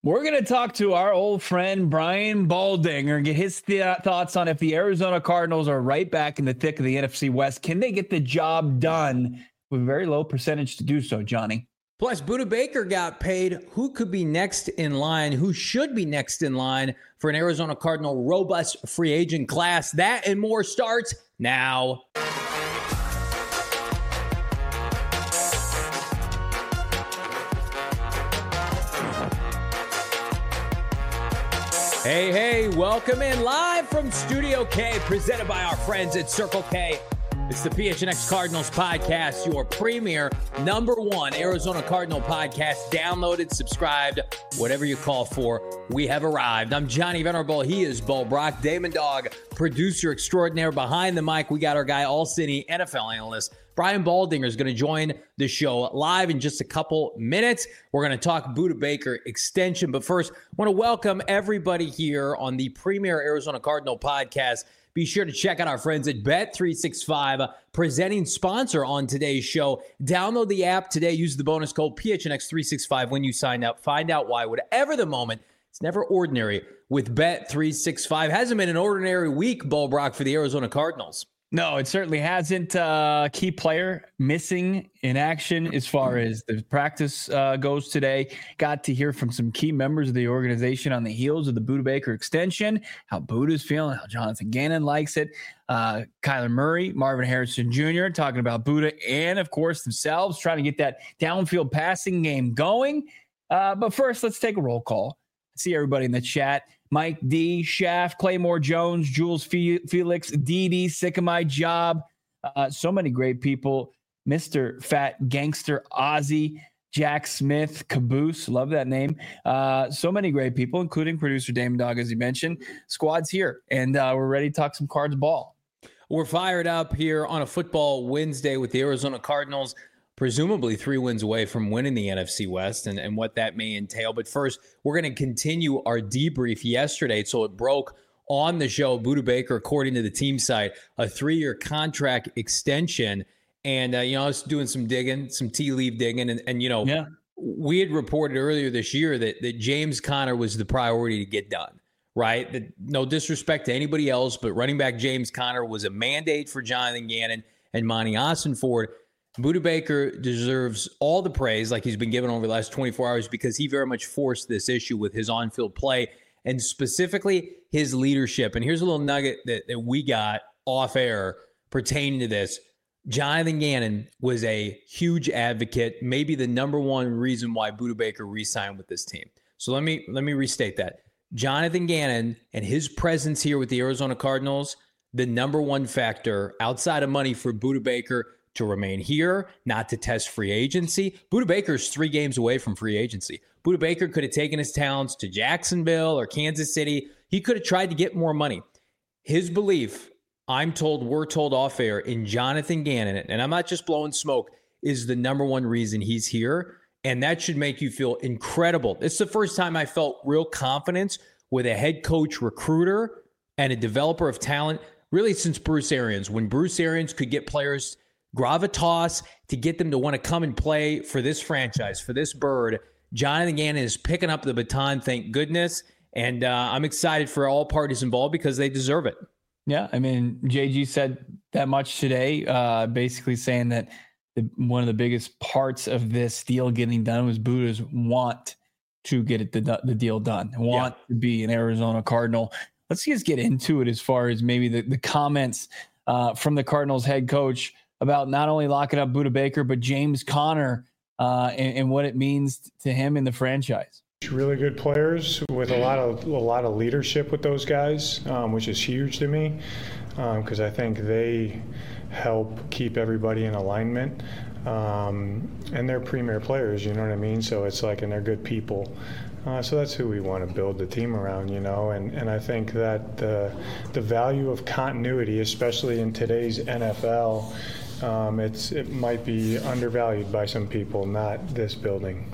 We're going to talk to our old friend Brian Baldinger and get his thoughts on if the Arizona Cardinals are right back in the thick of the NFC West. Can they get the job done with a very low percentage to do so, Johnny? Plus, Budda Baker got paid. Who could be next in line? Who should be next in line for an Arizona Cardinal robust free agent class? That and more starts now. Hey, welcome in live from Studio K, presented by our friends at Circle K. It's the PHNX Cardinals podcast, your premier #1 Arizona Cardinal podcast. Downloaded, subscribed, whatever you call for. We have arrived. I'm Johnny Venerable. He is Bo Brock, Damon Dog, producer extraordinaire. Behind the mic, we got our guy, All City NFL analyst, Brian Baldinger, is going to join the show live in just a couple minutes. We're going to talk Budda Baker extension. But first, I want to welcome everybody here on the premier Arizona Cardinal podcast. Be sure to check out our friends at Bet365, presenting sponsor on today's show. Download the app today. Use the bonus code PHNX365 when you sign up. Find out why. Whatever the moment, it's never ordinary with Bet365. Hasn't been an ordinary week, Bo Brock, for the Arizona Cardinals. No, it certainly hasn't. Key player missing in action as far as the practice goes today. Got to hear from some key members of the organization on the heels of the Budda Baker extension, how Budda's feeling, how Jonathan Gannon likes it. Kyler Murray, Marvin Harrison Jr. talking about Budda and, of course, themselves trying to get that downfield passing game going. But first, let's take a roll call. See everybody in the chat. Mike D, Shaft, Claymore Jones, Jules Felix, DD, sick of my job. So many great people. Mr. Fat Gangster Ozzy, Jack Smith, Caboose, love that name. So many great people, including producer Damon Dog, as you mentioned. Squad's here, and we're ready to talk some Cards ball. We're fired up here on a football Wednesday with the Arizona Cardinals, presumably 3 wins away from winning the NFC West and what that may entail. But first, we're going to continue our debrief yesterday. So it broke on the show. Budda Baker, according to the team site, a 3-year contract extension. And, I was doing some digging, some tea leaf digging. And we had reported earlier this year that James Conner was the priority to get done, right? That, no disrespect to anybody else, but running back James Conner was a mandate for Jonathan Gannon and Monty Ossenford. Budda Baker deserves all the praise like he's been given over the last 24 hours because he very much forced this issue with his on-field play and specifically his leadership. And here's a little nugget that we got off air pertaining to this. Jonathan Gannon was a huge advocate, maybe the #1 reason why Budda Baker re-signed with this team. So let me restate that. Jonathan Gannon and his presence here with the Arizona Cardinals, the #1 factor outside of money for Budda Baker to remain here, not to test free agency. Budda Baker's 3 games away from free agency. Budda Baker could have taken his talents to Jacksonville or Kansas City. He could have tried to get more money. His belief, we're told off air, in Jonathan Gannon, and I'm not just blowing smoke, is the #1 reason he's here. And that should make you feel incredible. It's the first time I felt real confidence with a head coach recruiter and a developer of talent, really since Bruce Arians. When Bruce Arians could get players gravitas to get them to want to come and play for this franchise, for this bird, Jonathan Gannon is picking up the baton, thank goodness. And I'm excited for all parties involved because they deserve it. Yeah, I mean, JG said that much today, basically saying that one of the biggest parts of this deal getting done was Budda's want to get the deal done, to be an Arizona Cardinal. Let's just get into it as far as maybe the comments from the Cardinals head coach about not only locking up Budda Baker, but James Conner and what it means to him in the franchise. Really good players with a lot of leadership with those guys, which is huge to me because I think they help keep everybody in alignment. And they're premier players, you know what I mean? So it's like, and they're good people. So that's who we want to build the team around, and I think that the value of continuity, especially in today's NFL, it might be undervalued by some people, not this building.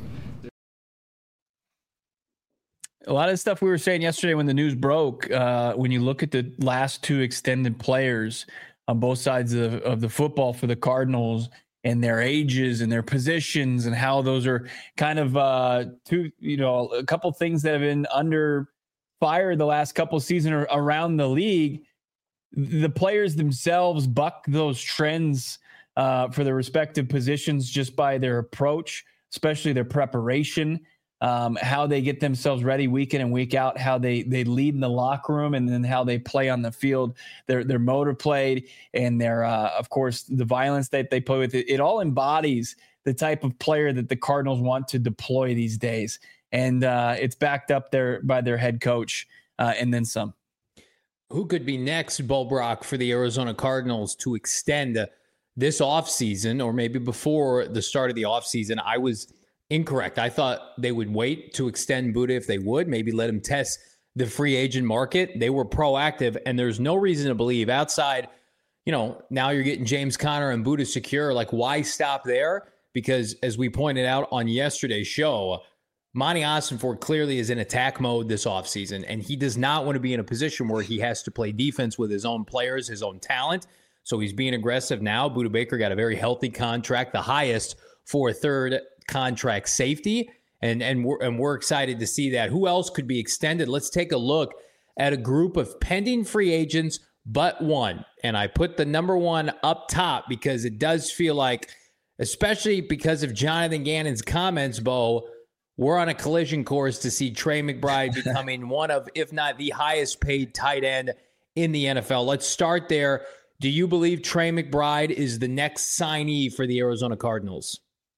A lot of stuff we were saying yesterday when the news broke, when you look at the last 2 extended players on both sides of the football for the Cardinals, and their ages and their positions and how those are kind of a couple things that have been under fire the last couple of seasons around the league. The players themselves buck those trends for their respective positions just by their approach, especially their preparation, how they get themselves ready week in and week out, how they lead in the locker room, and then how they play on the field, their motor played, and their of course the violence that they play with. It all embodies the type of player that the Cardinals want to deploy these days, and it's backed up there by their head coach and then some. Who could be next, Bo Brock, for the Arizona Cardinals to extend this offseason, or maybe before the start of the offseason? I was incorrect. I thought they would wait to extend Budda if they would, maybe let him test the free agent market. They were proactive, and there's no reason to believe outside, now you're getting James Conner and Budda secure. Like, why stop there? Because as we pointed out on yesterday's show, Monty Ossenfort clearly is in attack mode this offseason, and he does not want to be in a position where he has to play defense with his own players, his own talent. So he's being aggressive now. Budda Baker got a very healthy contract, the highest for a third contract safety, and we're excited to see that. Who else could be extended? Let's take a look at a group of pending free agents, but one. And I put the number one up top because it does feel like, especially because of Jonathan Gannon's comments, Bo, we're on a collision course to see Trey McBride becoming one of, if not the highest paid tight end in the NFL. Let's start there. Do you believe Trey McBride is the next signee for the Arizona Cardinals?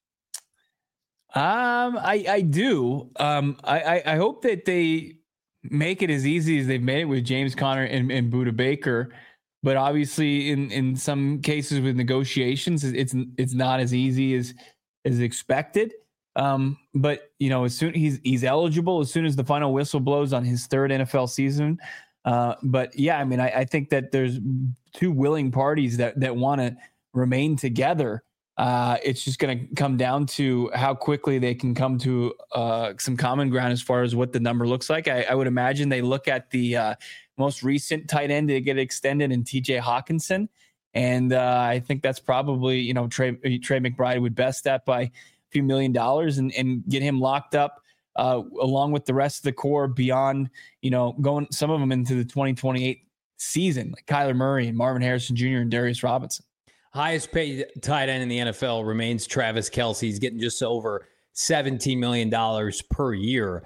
I do. I hope that they make it as easy as they've made it with James Conner and Budda Baker. But obviously in some cases with negotiations, it's not as easy as expected. But as soon he's eligible as soon as the final whistle blows on his third NFL season. But yeah, I mean, I think that there's two willing parties that want to remain together. It's just going to come down to how quickly they can come to some common ground as far as what the number looks like. I would imagine they look at the most recent tight end to get extended in TJ Hawkinson. And I think that's probably, Trey McBride would best that by few $1 million and get him locked up along with the rest of the core beyond, going some of them into the 2028 season, like Kyler Murray and Marvin Harrison Jr. and Darius Robinson. Highest paid tight end in the NFL remains Travis Kelce. He's getting just over $17 million per year.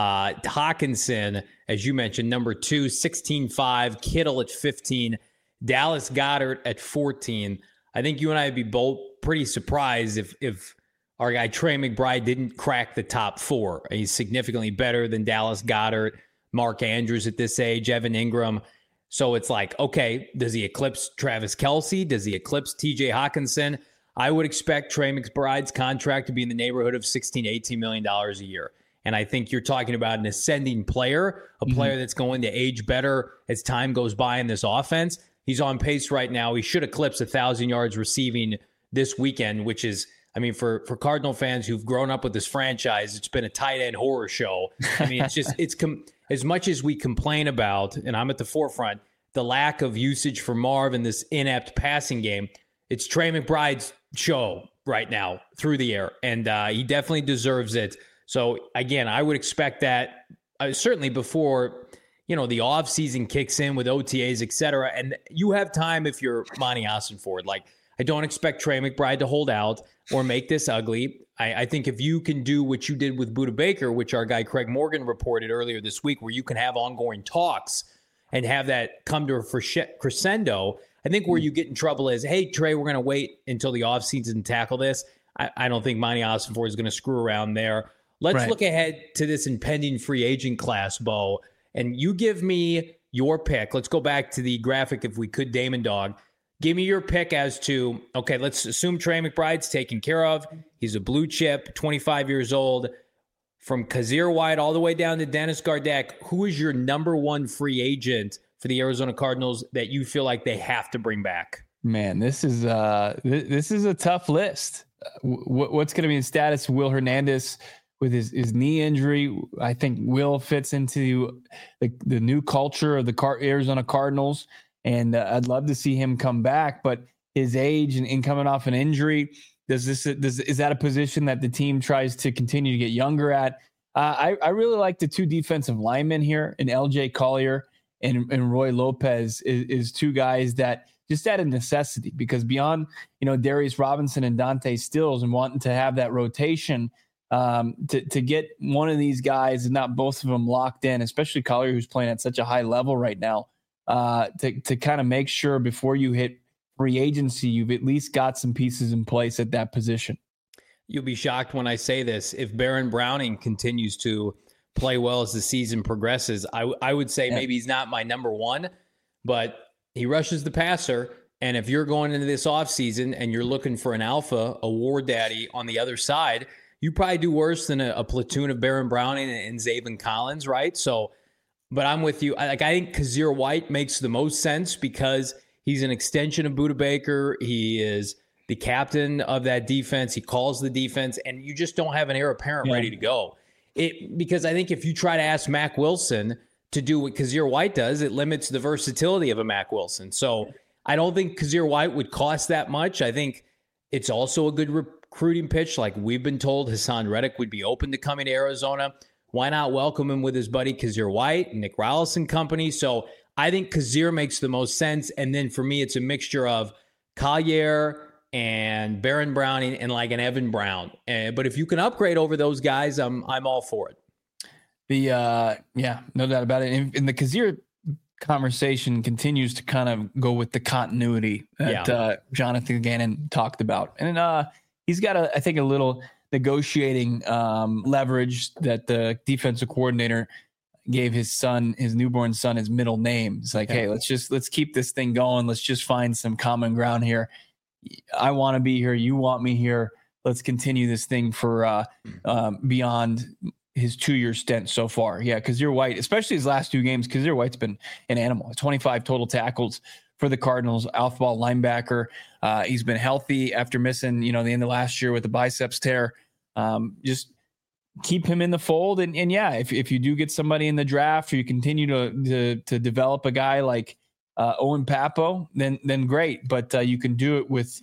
Hawkinson, as you mentioned, number 2, 16.5, Kittle at 15, Dallas Goedert at 14. I think you and I would be both pretty surprised if our guy Trey McBride didn't crack the top 4. He's significantly better than Dallas Goedert, Mark Andrews at this age, Evan Ingram. So it's like, okay, does he eclipse Travis Kelce? Does he eclipse TJ Hawkinson? I would expect Trey McBride's contract to be in the neighborhood of $16, $18 million a year. And I think you're talking about an ascending player, a player that's going to age better as time goes by in this offense. He's on pace right now. He should eclipse 1,000 yards receiving this weekend, which is, I mean, for Cardinal fans who've grown up with this franchise, it's been a tight end horror show. I mean, as much as we complain about, and I'm at the forefront, the lack of usage for Marv in this inept passing game, it's Trey McBride's show right now through the air, and he definitely deserves it. So, again, I would expect that certainly before, the offseason kicks in with OTAs, et cetera, and you have time if you're Monty Ossenfort. Like, I don't expect Trey McBride to hold out or make this ugly. I think if you can do what you did with Budda Baker, which our guy Craig Morgan reported earlier this week, where you can have ongoing talks and have that come to a crescendo, I think where you get in trouble is, hey, Trey, we're going to wait until the offseason to tackle this. I don't think Monty Ossenfort is going to screw around there. Let's look ahead to this impending free agent class, Bo, and you give me your pick. Let's go back to the graphic, if we could, Damon Dog. Give me your pick as to, okay, let's assume Trey McBride's taken care of. He's a blue chip, 25 years old. From Kazir White all the way down to Dennis Gardeck, who is your number one free agent for the Arizona Cardinals that you feel like they have to bring back? Man, this is a tough list. What's going to be the status of Will Hernandez with his knee injury? I think Will fits into the new culture of the Arizona Cardinals. And I'd love to see him come back, but his age and coming off an injury, Is that a position that the team tries to continue to get younger at? I really like the two defensive linemen here, and LJ Collier and Roy Lopez is two guys that just out of necessity, because beyond, Darius Robinson and Dante Stills and wanting to have that rotation, to get one of these guys and not both of them locked in, especially Collier, who's playing at such a high level right now, to kind of make sure before you hit free agency, you've at least got some pieces in place at that position. You'll be shocked when I say this. If Baron Browning continues to play well as the season progresses, I would say maybe he's not my number one, but he rushes the passer. And if you're going into this offseason and you're looking for an alpha, a war daddy on the other side, you probably do worse than a platoon of Baron Browning and Zaven Collins, right? So, but I'm with you. I think Kazir White makes the most sense because he's an extension of Budda Baker. He is the captain of that defense. He calls the defense, and you just don't have an heir apparent ready to go. Because I think if you try to ask Mack Wilson to do what Kazir White does, it limits the versatility of a Mack Wilson. So I don't think Kazir White would cost that much. I think it's also a good recruiting pitch. Like we've been told, Hassan Reddick would be open to coming to Arizona. Why not welcome him with his buddy Kazir White, Nick Rallis and company? So I think Kazir makes the most sense. And then for me, it's a mixture of Collier and Baron Browning and like an Evan Brown. But if you can upgrade over those guys, I'm all for it. No doubt about it. And the Kazir conversation continues to kind of go with the continuity that Jonathan Gannon talked about. And he's got, I think, a little negotiating leverage that the defensive coordinator gave his newborn son, his middle name. It's like, hey, let's keep this thing going. Let's just find some common ground here. I want to be here. You want me here. Let's continue this thing for beyond his 2-year stint so far. Yeah, Kazir White, especially his last 2 games, Kazir White's been an animal. 25 total tackles for the Cardinals, alpha ball linebacker. He's been healthy after missing, the end of last year with the biceps tear. Just keep him in the fold. And if you do get somebody in the draft, or you continue to develop a guy like Owen Papo, then great. But you can do it with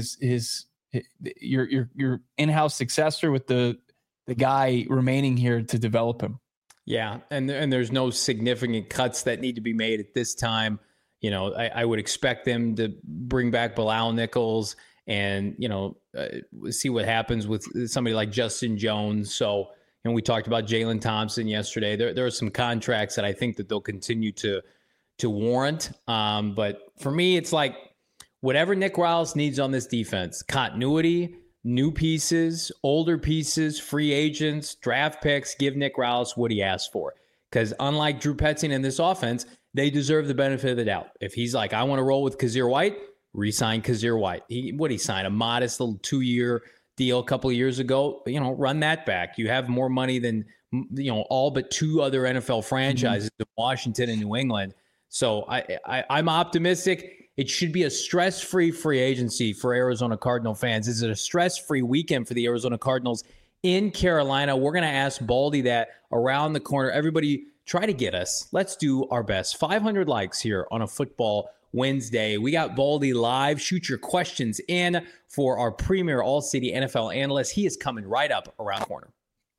your in-house successor, with the guy remaining here to develop him. Yeah, and there's no significant cuts that need to be made at this time. I would expect them to bring back Bilal Nichols and see what happens with somebody like Justin Jones. So, we talked about Jalen Thompson yesterday. There are some contracts that I think that they'll continue to warrant. But for me, it's like whatever Nick Rallis needs on this defense: continuity, new pieces, older pieces, free agents, draft picks. Give Nick Rallis what he asked for. Because unlike Drew Petzing in this offense, they deserve the benefit of the doubt. If he's like, I want to roll with Kazir White, re-sign Kazir White. He signed a modest little 2-year deal a couple of years ago. Run that back. You have more money than all but 2 other NFL franchises in Washington and New England. So I'm optimistic. It should be a stress-free free agency for Arizona Cardinal fans. Is it a stress-free weekend for the Arizona Cardinals in Carolina? We're going to ask Baldy that around the corner. Everybody try to get us. Let's do our best. 500 likes here on a football Wednesday. We got Baldy live. Shoot your questions in for our premier all-city NFL analyst. He is coming right up around the corner.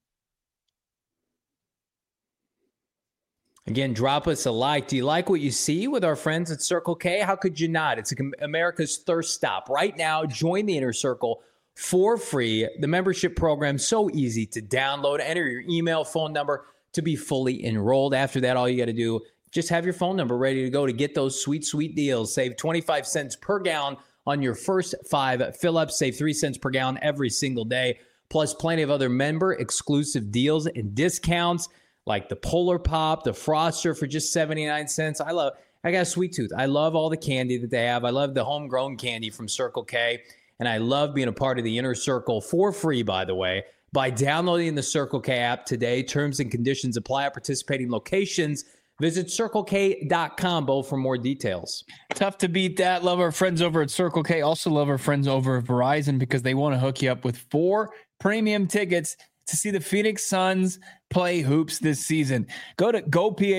Again, drop us a like. Do you like what you see with our friends at Circle K? How could you not? It's America's thirst stop. Right now, join the Inner Circle for free. The membership program, so easy to download. Enter your email, phone number to be fully enrolled. After that, all you got to do, just have your phone number ready to go to get those sweet, sweet deals. Save 25 cents per gallon on your first 5 fill-ups. Save 3 cents per gallon every single day. Plus plenty of other member exclusive deals and discounts like the Polar Pop, the Froster for just 79 cents. I got a sweet tooth. I love all the candy that they have. I love the homegrown candy from Circle K. And I love being a part of the Inner Circle for free, by the way, by downloading the Circle K app today. Terms and conditions apply at participating locations. Visit CircleK.com, Bo, for more details. Tough to beat that. Love our friends over at Circle K. Also love our friends over at Verizon because they want to hook you up with 4 premium tickets to see the Phoenix Suns play hoops this season. Go to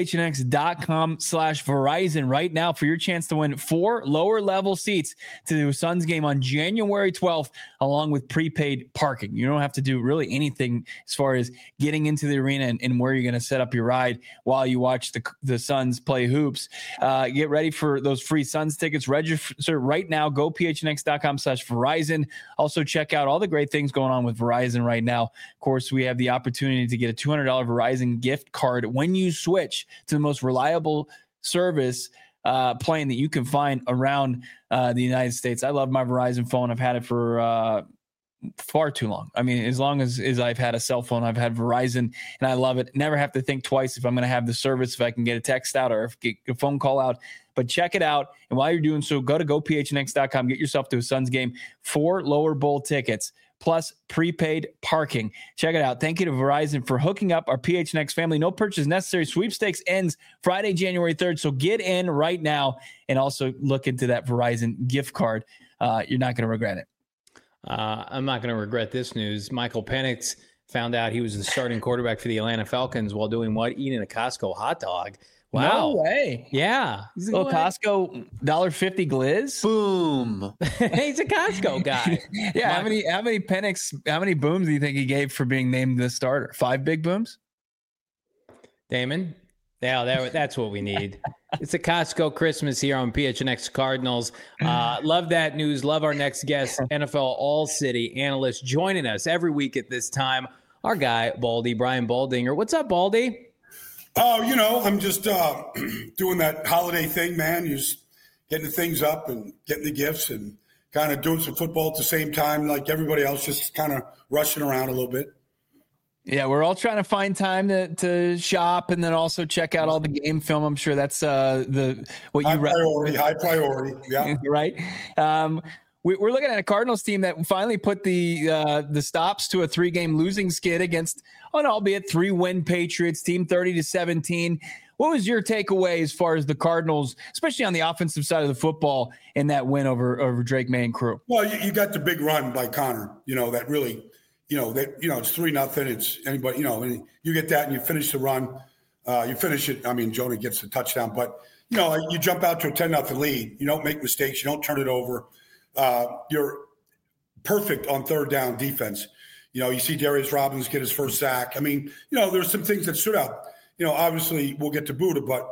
gophnx.com/Verizon right now for your chance to win 4 lower level seats to the Suns game on January 12th, along with prepaid parking. You don't have to do really anything as far as getting into the arena and where you're going to set up your ride while you watch the Suns play hoops. Get ready for those free Suns tickets. Register right now. gophnx.com/Verizon. Also check out all the great things going on with Verizon right now. Of course, we have the opportunity to get a $200 Verizon gift card when you switch to the most reliable service plan that you can find around the United States. I love my Verizon phone. I've had it for far too long. I mean, as long as I've had a cell phone, I've had Verizon, and I love it. Never have to think twice if I'm going to have the service, if I can get a text out or if get a phone call out. But check it out. And while you're doing so, go to gophnx.com, get yourself to a Suns game, 4 lower bowl tickets, plus prepaid parking. Check it out. Thank you to Verizon for hooking up our PHNX family. No purchase necessary. Sweepstakes ends Friday, January 3rd. So get in right now and also look into that Verizon gift card. You're not going to regret it. I'm not going to regret this news. Michael Penix found out he was the starting quarterback for the Atlanta Falcons while doing what? Eating a Costco hot dog. Wow. No way. Yeah. Little Costco $1.50 glizz. Boom. He's a Costco guy. Yeah. How many booms do you think he gave for being named the starter? 5 big booms? Damon? Yeah, that's what we need. It's a Costco Christmas here on PHNX Cardinals. Love that news. Love our next guest, NFL All-City analyst, joining us every week at this time. Our guy, Baldy, Brian Baldinger. What's up, Baldy? Oh, I'm just doing that holiday thing, man. Just getting the things up and getting the gifts and kind of doing some football at the same time, like everybody else, just kind of rushing around a little bit. Yeah, we're all trying to find time to shop and then also check out all the game film. I'm sure that's high priority. Yeah, right. We're looking at a Cardinals team that finally put the stops to a 3-game losing skid against an albeit 3-win Patriots team, 30-17. What was your takeaway as far as the Cardinals, especially on the offensive side of the football, in that win over Drake May and crew? Well, you got the big run by Connor. That really. It's 3-0. It's anybody, and you get that and you finish the run. You finish it. I mean, Jonah gets the touchdown, but, you jump out to a 10-0 lead. You don't make mistakes. You don't turn it over. You're perfect on third down defense. You see Darius Robbins get his first sack. I mean, there's some things that stood out. Obviously we'll get to Buddha, but,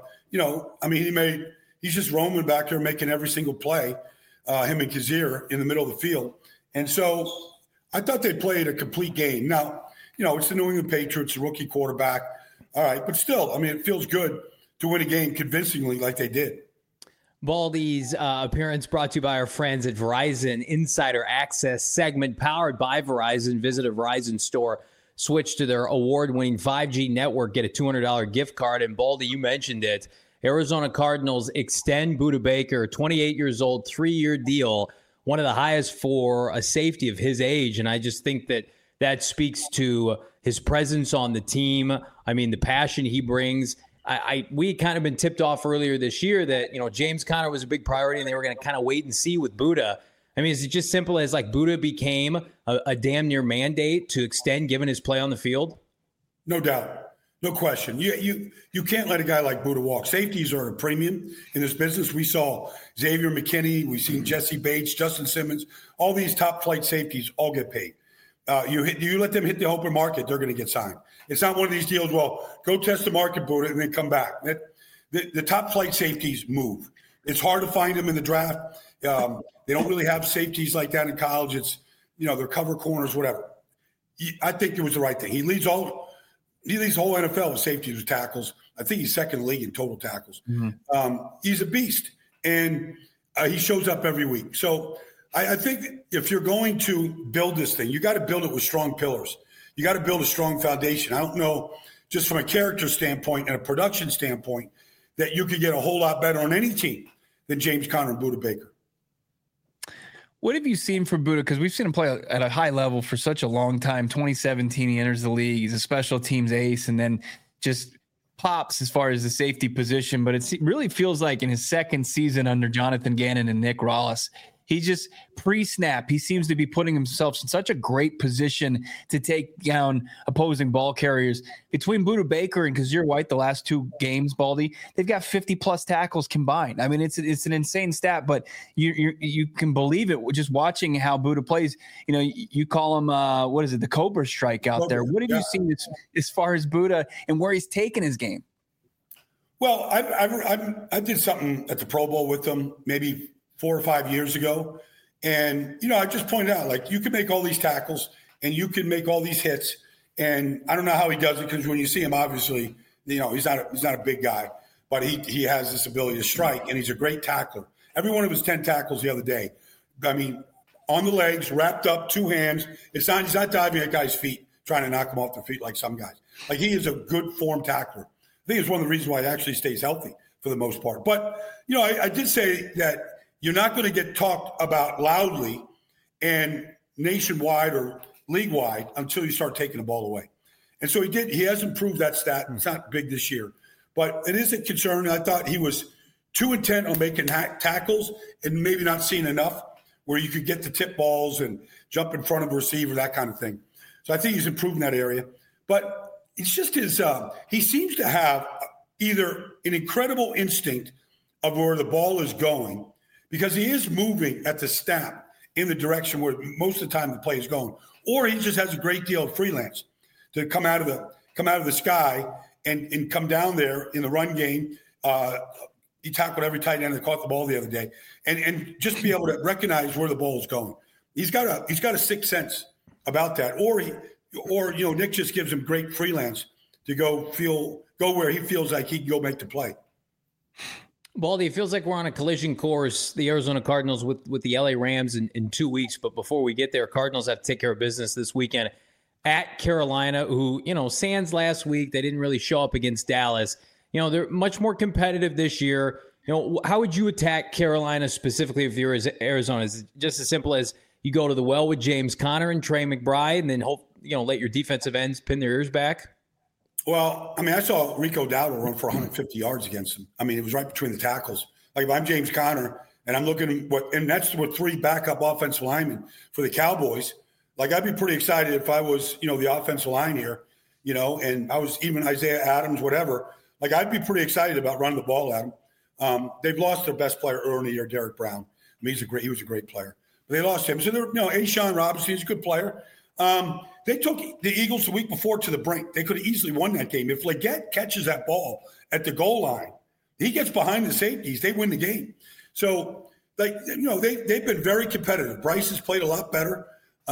he's just roaming back there making every single play, him and Kazir in the middle of the field. And so I thought they played a complete game. Now, it's the New England Patriots, a rookie quarterback. All right, but still, it feels good to win a game convincingly like they did. Baldy's appearance brought to you by our friends at Verizon Insider Access segment powered by Verizon. Visit a Verizon store, switch to their award-winning 5G network, get a $200 gift card. And Baldy, you mentioned it. Arizona Cardinals extend Budda Baker, 28 years old, 3-year deal. One of the highest for a safety of his age. And I just think that speaks to his presence on the team. I mean, the passion he brings. We kind of been tipped off earlier this year that, James Conner was a big priority and they were going to kind of wait and see with Budda. I mean, is it just simple as like Budda became a damn near mandate to extend given his play on the field? No doubt. No question. You can't let a guy like Budda walk. Safeties are a premium in this business. We saw Xavier McKinney. We've seen Jesse Bates, Justin Simmons. All these top flight safeties all get paid. You let them hit the open market, they're going to get signed. It's not one of these deals, well, go test the market, Budda, and then come back. The top flight safeties move. It's hard to find them in the draft. They don't really have safeties like that in college. It's, they're cover corners, whatever. I think it was the right thing. He leads the whole NFL with safeties with tackles. I think he's second in the league in total tackles. Mm-hmm. He's a beast, and he shows up every week. So I think if you're going to build this thing, you got to build it with strong pillars. You got to build a strong foundation. I don't know, just from a character standpoint and a production standpoint, that you could get a whole lot better on any team than James Conner and Budda Baker. What have you seen from Budda? Because we've seen him play at a high level for such a long time. 2017, he enters the league. He's a special teams ace and then just pops as far as the safety position. But it really feels like in his second season under Jonathan Gannon and Nick Rollis, He just pre-snap, he seems to be putting himself in such a great position to take down opposing ball carriers. Between Budda Baker and Kazir White, the last 2 games, Baldy, they've got 50+ tackles combined. I mean, it's an insane stat, but you can believe it just watching how Budda plays. You know, you call him the Cobra strike out there. What have you seen as far as Budda and where he's taken his game? Well, I did something at the Pro Bowl with them maybe 4 or 5 years ago. And, you know, I just pointed out, like, you can make all these tackles and you can make all these hits. And I don't know how he does it, because when you see him, obviously, you know, he's not a big guy, but he has this ability to strike, and he's a great tackler. Every one of his 10 tackles the other day, I mean, on the legs, wrapped up, 2 hands. He's not diving at guys' feet, trying to knock them off their feet like some guys. Like, he is a good form tackler. I think it's one of the reasons why he actually stays healthy for the most part. But, you know, I did say that you're not going to get talked about loudly and nationwide or league-wide until you start taking the ball away. And so he has improved that stat. It's not big this year. But it is a concern. I thought he was too intent on making tackles and maybe not seeing enough where you could get the tip balls and jump in front of a receiver, that kind of thing. So I think he's improved in that area. But it's just he seems to have either an incredible instinct of where the ball is going, because he is moving at the snap in the direction where most of the time the play is going, or he just has a great deal of freelance to come out of the sky and come down there in the run game. He tackled every tight end that caught the ball the other day, and just be able to recognize where the ball is going. He's got a sixth sense about that, or you know, Nick just gives him great freelance to go where he feels like he can go make the play. Baldy, it feels like we're on a collision course, the Arizona Cardinals with the LA Rams in 2 weeks. But before we get there, Cardinals have to take care of business this weekend at Carolina, who, you know, sans last week, they didn't really show up against Dallas. You know, they're much more competitive this year. You know, how would you attack Carolina specifically if you're Arizona? Is it just as simple as you go to the well with James Conner and Trey McBride and then let your defensive ends pin their ears back? Well, I mean, I saw Rico Dowdle run for 150 yards against him. I mean, it was right between the tackles. Like, if I'm James Conner and I'm looking and that's with 3 backup offensive linemen for the Cowboys, like, I'd be pretty excited if I was, you know, the offensive line here, you know, and I was even Isaiah Adams, whatever. Like, I'd be pretty excited about running the ball at him. They've lost their best player early in the year, Derek Brown. I mean, he was a great player. But they lost him. So, A'Shawn Robinson, he's a good player. They took the Eagles the week before to the brink. They could have easily won that game. If Leggett catches that ball at the goal line, he gets behind the safeties, they win the game. So, like, you know, they've been very competitive. Bryce has played a lot better.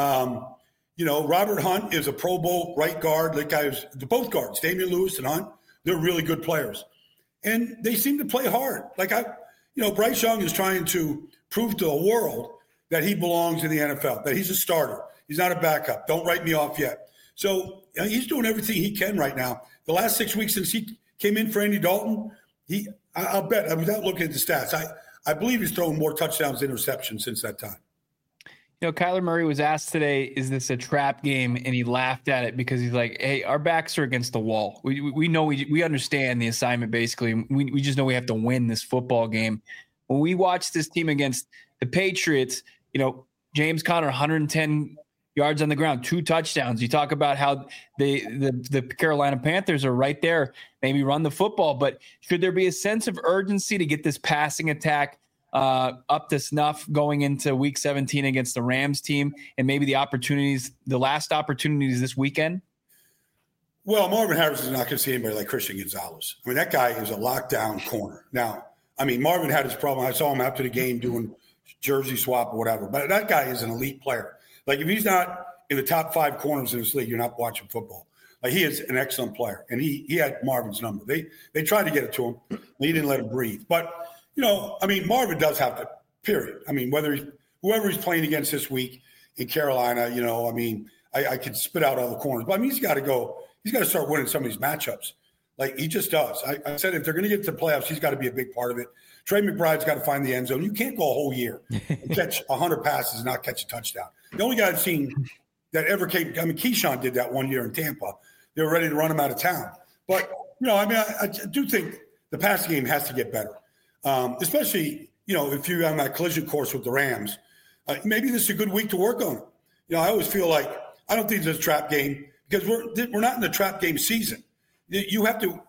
You know, Robert Hunt is a Pro Bowl right guard. That guy is both guards, Damian Lewis and Hunt. They're really good players. And they seem to play hard. Like, Bryce Young is trying to prove to the world that he belongs in the NFL, that he's a starter. He's not a backup. Don't write me off yet. So he's doing everything he can right now. The last 6 weeks since he came in for Andy Dalton, I'll bet, without looking at the stats, I believe he's thrown more touchdowns than interceptions since that time. You know, Kyler Murray was asked today, is this a trap game? And he laughed at it because he's like, hey, our backs are against the wall. We know, we understand the assignment, basically. We just know we have to win this football game. When we watch this team against the Patriots, you know, James Conner, 110 yards on the ground, 2 touchdowns. You talk about how the Carolina Panthers are right there, maybe run the football. But should there be a sense of urgency to get this passing attack up to snuff going into Week 17 against the Rams team, and maybe the last opportunities this weekend? Well, Marvin Harrison is not going to see anybody like Christian Gonzalez. I mean, that guy is a lockdown corner. Now, I mean, Marvin had his problem. I saw him after the game doing jersey swap or whatever. But that guy is an elite player. Like, if he's not in the top 5 corners in this league, you're not watching football. Like, he is an excellent player, and he had Marvin's number. They tried to get it to him. He didn't let him breathe. But, you know, I mean, Marvin does have to, period. I mean, whoever he's playing against this week in Carolina, you know, I mean, I could spit out all the corners. But, I mean, he's got to start winning some of these matchups. Like, he just does. I said if they're going to get to the playoffs, he's got to be a big part of it. Trey McBride's got to find the end zone. You can't go a whole year and catch 100 passes and not catch a touchdown. The only guy I've seen that ever came – I mean, Keyshawn did that one year in Tampa. They were ready to run him out of town. But, you know, I mean, I do think the passing game has to get better, especially, you know, if you're on that collision course with the Rams. Maybe this is a good week to work on it. I always feel like I don't think it's a trap game because we're not in the trap game season. You got to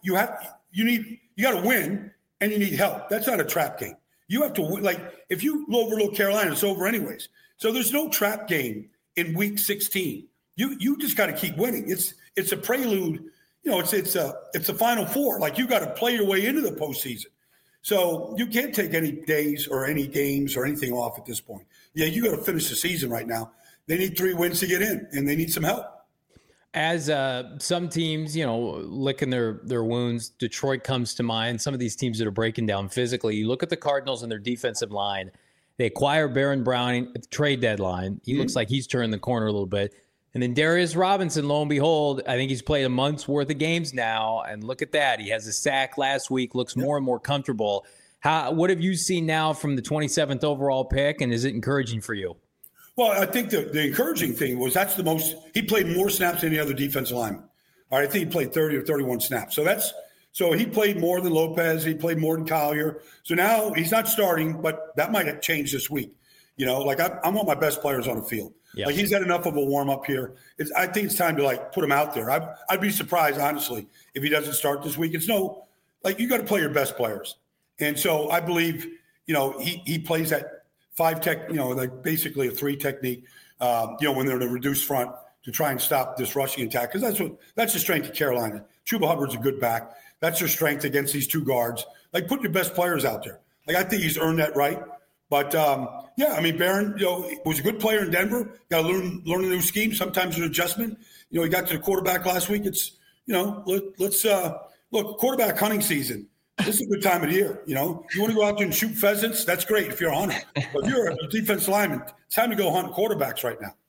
win and you need help. That's not a trap game. You have to like if you overlook Carolina, it's over anyways. So there's no trap game in week 16. You just got to keep winning. It's a prelude. It's a Final Four. Like you got to play your way into the postseason. So you can't take any days or any games or anything off at this point. Yeah, you got to finish the season right now. They need 3 wins to get in, and they need some help. As some teams, licking their wounds, Detroit comes to mind. Some of these teams that are breaking down physically. You look at the Cardinals and their defensive line. They acquire Baron Browning at the trade deadline. He looks like he's turned the corner a little bit. And then Darius Robinson, lo and behold, I think he's played a month's worth of games now. And look at that. He has a sack last week, looks more and more comfortable. What have you seen now from the 27th overall pick, and is it encouraging for you? Well, I think the encouraging thing was he played more snaps than any other defensive lineman. All right, I think he played 30 or 31 snaps. So he played more than Lopez. He played more than Collier. So now he's not starting, but that might have changed this week. I want my best players on the field. Yep. Like he's had enough of a warm up here. I think it's time to put him out there. I'd be surprised, honestly, if he doesn't start this week. It's you got to play your best players. And so I believe, he plays that 5 tech, basically a 3 technique, when they're in a reduced front to try and stop this rushing attack. Because that's the strength of Carolina. Chuba Hubbard's a good back. That's their strength against these 2 guards. Put your best players out there. I think he's earned that right. But, Barron, was a good player in Denver. Got to learn a new scheme. Sometimes an adjustment. He got to the quarterback last week. It's, let's look, quarterback hunting season. This is a good time of the year. You want to go out there and shoot pheasants? That's great if you're a hunter. But if you're a defensive lineman, it's time to go hunt quarterbacks right now.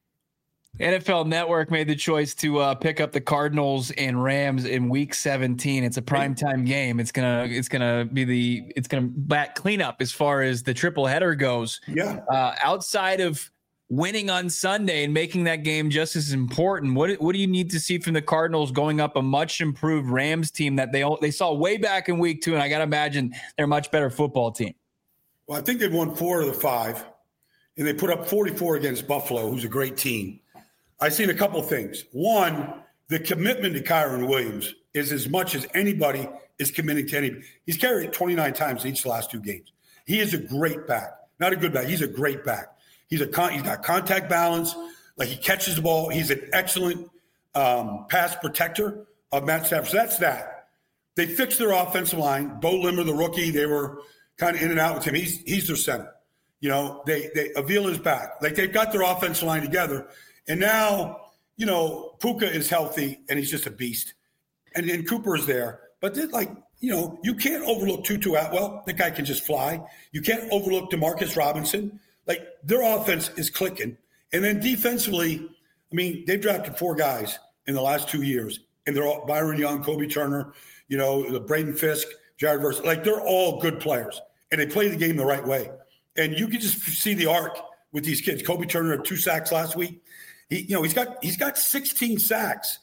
NFL Network made the choice to pick up the Cardinals and Rams in Week 17. It's a primetime game. It's gonna back cleanup as far as the triple header goes. Yeah. Outside of winning on Sunday and making that game just as important, what do you need to see from the Cardinals going up a much improved Rams team that they saw way back in Week 2? And I got to imagine they're a much better football team. Well, I think they've won 4 of the 5, and they put up 44 against Buffalo, who's a great team. I've seen a couple things. One, the commitment to Kyron Williams is as much as anybody is committing to anybody. He's carried it 29 times each of the last 2 games. He is a great back. Not a good back. He's a great back. He's got contact balance. He catches the ball. He's an excellent pass protector of Matt Stafford. So that's that. They fixed their offensive line. Bo Limmer, the rookie, they were kind of in and out with him. He's their center. Avila's back. They've got their offensive line together. And now, Puka is healthy and he's just a beast. And then Cooper is there. But you can't overlook Tutu Atwell. That guy can just fly. You can't overlook DeMarcus Robinson. Their offense is clicking. And then defensively, they've drafted 4 guys in the last 2 years. And they're all Byron Young, Kobe Turner, Braden Fisk, Jared Verse. They're all good players. And they play the game the right way. And you can just see the arc with these kids. Kobe Turner had 2 sacks last week. He's got 16 sacks.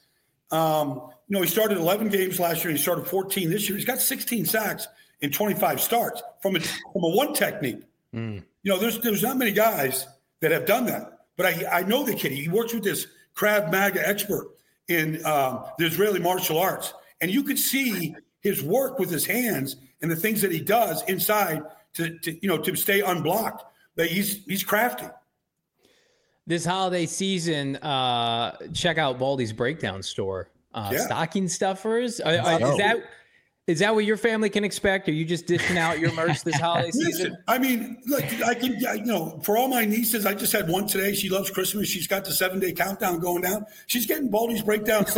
He started 11 games last year. He started 14 this year. He's got 16 sacks in 25 starts from a 1 technique. There's not many guys that have done that. But I know the kid. He works with this Krav Maga expert in the Israeli martial arts. And you could see his work with his hands and the things that he does inside to stay unblocked. But he's crafty. This holiday season, check out Baldy's Breakdown Store. Stocking stuffers. Is that what your family can expect? Are you just dishing out your merch this holiday season? I can, for all my nieces, I just had one today. She loves Christmas. She's got the 7-day countdown going down. She's getting Baldy's Breakdowns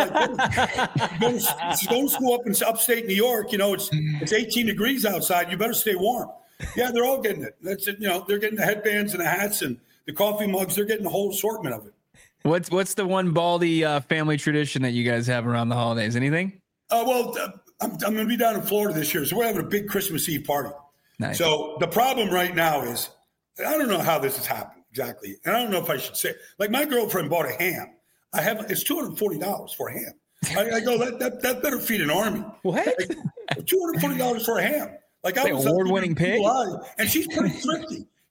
she's going to school up in upstate New York. It's 18 degrees outside. You better stay warm. Yeah, they're all getting it. That's it. They're getting the headbands and the hats and the coffee mugs. They're getting the whole assortment of it. What's the one Baldy family tradition that you guys have around the holidays? Anything? I'm going to be down in Florida this year, so we're having a big Christmas Eve party. Nice. So the problem right now is I don't know how this has happened exactly, and I don't know if I should say. My girlfriend bought a ham. It's $240 for a ham. I go that better feed an army. What? $240 for a ham. I was award-winning pig, and she's pretty thrifty.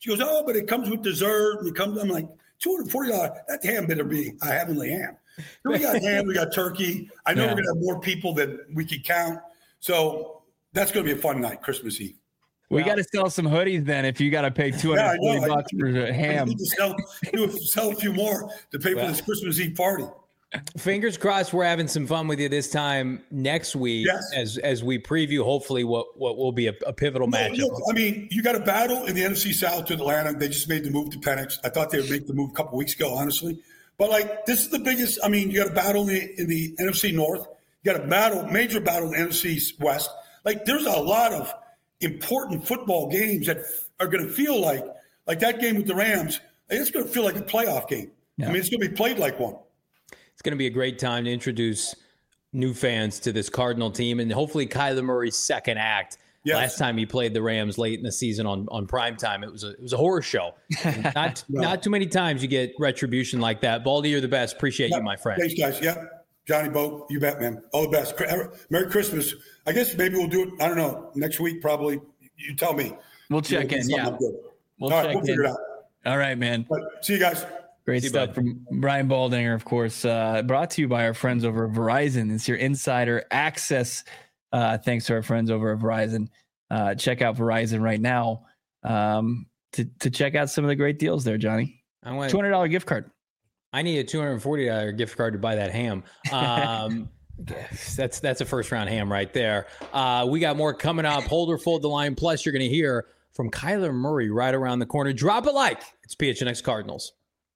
She goes, oh, but it comes with dessert. And I'm like, $240. That ham better be a heavenly ham. So we got ham, we got turkey. I know we're going to have more people than we can count. So that's going to be a fun night, Christmas Eve. We got to sell some hoodies then if you got to pay $240 for a ham. I need to sell a few more to pay for this Christmas Eve party. Fingers crossed we're having some fun with you this time next week as we preview hopefully what will be a pivotal matchup. Look, I mean, you got a battle in the NFC South to Atlanta. They just made the move to Penix. I thought they would make the move a couple weeks ago, honestly. But, like, this is the biggest – I mean, you got a battle in the NFC North. You got a major battle in the NFC West. Like, there's a lot of important football games that are going to feel like that game with the Rams, it's going to feel like a playoff game. Yeah. I mean, it's going to be played like one. It's going to be a great time to introduce new fans to this Cardinal team and hopefully Kyler Murray's second act. Yes. Last time he played the Rams late in the season on primetime, it was a horror show. Not too many times you get retribution like that. Baldy, you're the best. Appreciate you, my friend. Thanks, guys. Yeah. Johnny Bo, you bet, man. All the best. Merry Christmas. I guess maybe we'll do it, I don't know, next week probably. You tell me. We'll check in, yeah. All right, we'll figure it out. All right, man. See you guys. Great stuff from Brian Baldinger, of course, brought to you by our friends over at Verizon. It's your insider access. Thanks to our friends over at Verizon. Check out Verizon right now to check out some of the great deals there, Johnny. $200 gift card. I need a $240 gift card to buy that ham. That's a first round ham right there. We got more coming up. Hold or fold the line. Plus, you're going to hear from Kyler Murray right around the corner. Drop a like. It's PHNX Cardinals.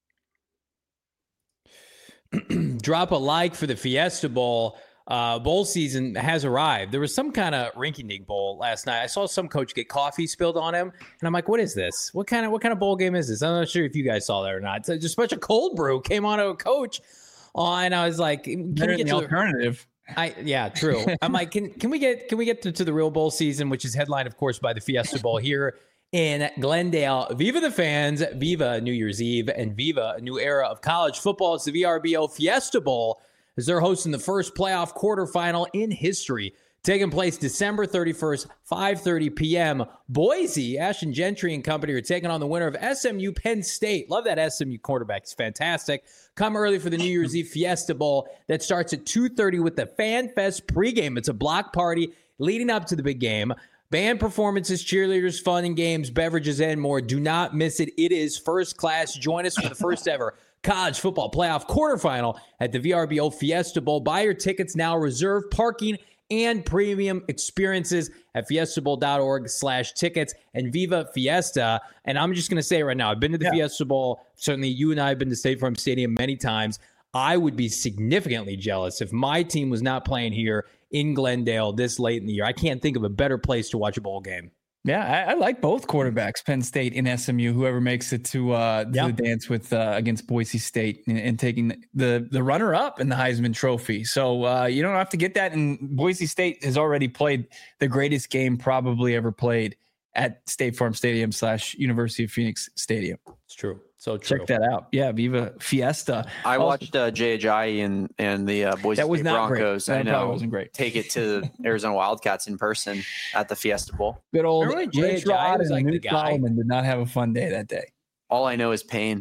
Drop a like for the Fiesta Bowl. Bowl season has arrived. There was some kind of rinky-dink bowl last night. I saw some coach get coffee spilled on him, and I'm like, "What is this? What kind of bowl game is this?" I'm not sure if you guys saw that or not. So just a bunch of cold brew came on to a coach, and I was like, "Can we get the alternative?" Yeah, true. I'm like, can we get to the real bowl season, which is headlined, of course, by the Fiesta Bowl here in Glendale. Viva the fans, Viva New Year's Eve, and Viva a new era of college football. It's the VRBO Fiesta Bowl as they're hosting the first playoff quarterfinal in history, taking place December 31st, 5:30 p.m. Boise, Ashton Gentry and company are taking on the winner of SMU Penn State. Love that SMU quarterback. It's fantastic. Come early for the New Year's Eve Fiesta Bowl that starts at 2:30 with the Fan Fest pregame. It's a block party leading up to the big game. Band performances, cheerleaders, fun and games, beverages, and more. Do not miss it. It is first class. Join us for the first ever college football playoff quarterfinal at the VRBO Fiesta Bowl. Buy your tickets now. Reserve parking and premium experiences at fiestabowl.org/tickets and Viva Fiesta. And I'm just going to say right now, I've been to the Fiesta Bowl. Certainly you and I have been to State Farm Stadium many times. I would be significantly jealous if my team was not playing here in Glendale this late in the year. I can't think of a better place to watch a bowl game. Yeah, I like both quarterbacks, Penn State and SMU, whoever makes it to the dance with against Boise State and taking the runner-up in the Heisman Trophy. So you don't have to get that. And Boise State has already played the greatest game probably ever played at State Farm Stadium / University of Phoenix Stadium. It's true. So true. Check that out. Yeah, Viva Fiesta. I watched Jay Ajayi and the Boise State Broncos. That probably wasn't great. Take it to the Arizona Wildcats in person at the Fiesta Bowl. Good old Jay Ajayi was like the guy. Solomon did not have a fun day that day. All I know is pain.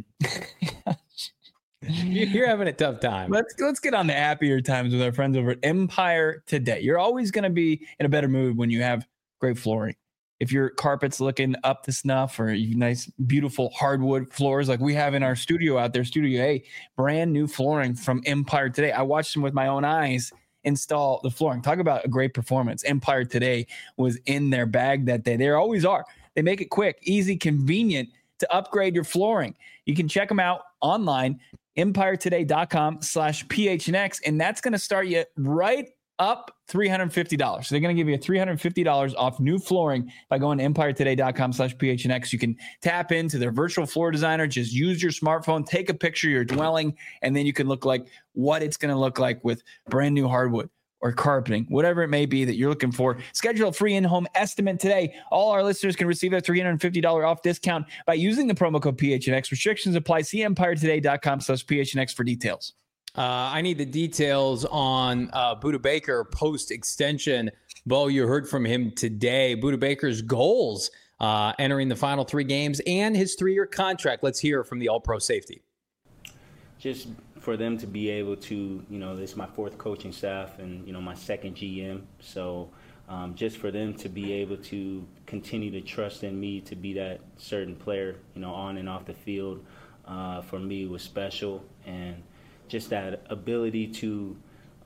You're having a tough time. Let's get on to happier times with our friends over at Empire Today. You're always going to be in a better mood when you have great flooring. If your carpet's looking up to snuff or nice, beautiful hardwood floors like we have in our studio out there, Studio A, brand new flooring from Empire Today. I watched them with my own eyes install the flooring. Talk about a great performance. Empire Today was in their bag that day. They always are. They make it quick, easy, convenient to upgrade your flooring. You can check them out online, empiretoday.com/PHNX, and that's going to start you right up $350. So they're going to give you $350 off new flooring by going to empiretoday.com/PHNX. You can tap into their virtual floor designer. Just use your smartphone, take a picture of your dwelling, and then you can look like what it's going to look like with brand new hardwood or carpeting, whatever it may be that you're looking for. Schedule a free in-home estimate today. All our listeners can receive a $350 off discount by using the promo code PHNX. Restrictions apply. See empiretoday.com/PHNX for details. I need the details on Budda Baker post-extension. Bo, you heard from him today. Budda Baker's goals entering the final 3 games and his 3-year contract. Let's hear from the All-Pro safety. Just for them to be able to, this is my 4th coaching staff and, my 2nd GM. So just for them to be able to continue to trust in me to be that certain player, on and off the field, for me was special. And just that ability to,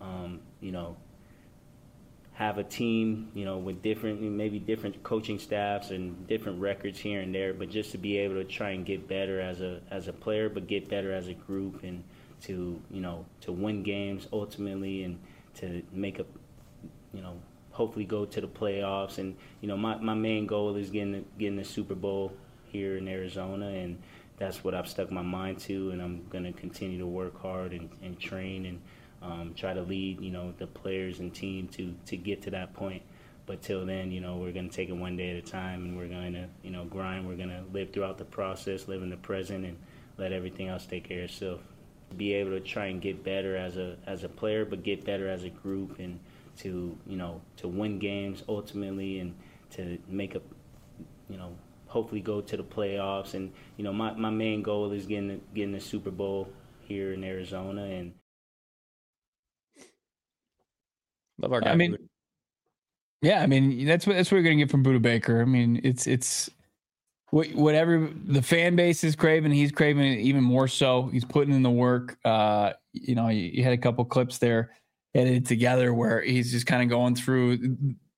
have a team, with different coaching staffs and different records here and there, but just to be able to try and get better as a player, but get better as a group, and to win games ultimately, and to make hopefully go to the playoffs. And my main goal is getting the Super Bowl here in Arizona, and that's what I've stuck my mind to, and I'm going to continue to work hard and train and try to lead, the players and team to get to that point. But till then, we're going to take it one day at a time, and we're going to, grind. We're going to live throughout the process, live in the present, and let everything else take care of itself. Be able to try and get better as a player, but get better as a group, and to win games ultimately, and to make hopefully go to the playoffs. And, my main goal is getting the Super Bowl here in Arizona. And love our guy. That's what you're going to get from Budda Baker. It's whatever the fan base is craving, he's craving it even more so. He's putting in the work. You had a couple clips there edited together where he's just kind of going through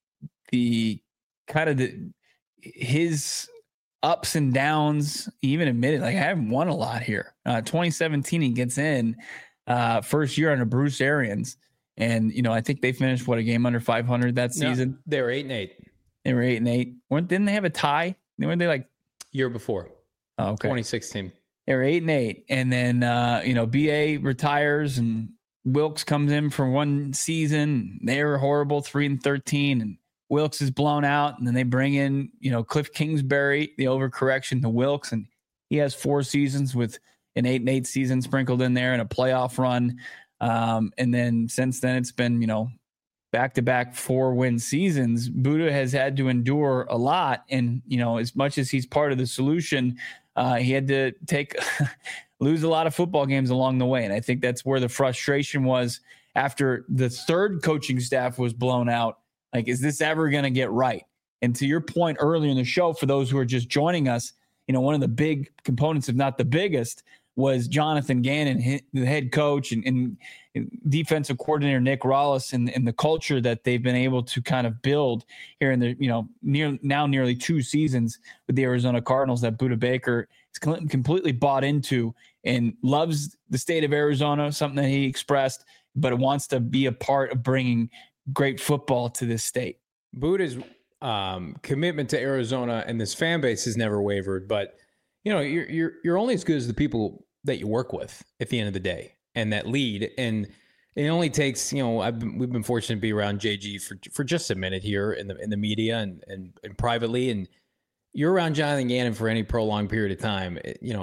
his ups and downs. He even admitted, I haven't won a lot here. 2017, he gets in first year under Bruce Arians. And, I think they finished a game under 500 that season. No, they were 8-8. They were 8-8. Didn't they have a tie? Weren't they year before? Oh, okay. 2016. They were 8-8. And then, BA retires and Wilkes comes in for one season. They were horrible, 3-13. And Wilkes is blown out. And then they bring in, Cliff Kingsbury, the overcorrection to Wilkes. And he has 4 seasons with an 8-8 season sprinkled in there and a playoff run. And then since then it's been, back-to-back 4-win seasons. Budda has had to endure a lot. And, as much as he's part of the solution, he had to lose a lot of football games along the way. And I think that's where the frustration was after the 3rd coaching staff was blown out. Is this ever going to get right? And to your point earlier in the show, for those who are just joining us, one of the big components, if not the biggest, was Jonathan Gannon, the head coach, and defensive coordinator Nick Rollis, and the culture that they've been able to kind of build here in the nearly 2 seasons with the Arizona Cardinals, that Budda Baker is completely bought into and loves the state of Arizona, something that he expressed, but wants to be a part of bringing great football to this state. Budda's commitment to Arizona and this fan base has never wavered, but you're only as good as the people that you work with at the end of the day, and that lead. And it only takes, we've been fortunate to be around JG for just a minute here in the media and privately. And you're around Jonathan Gannon for any prolonged period of time.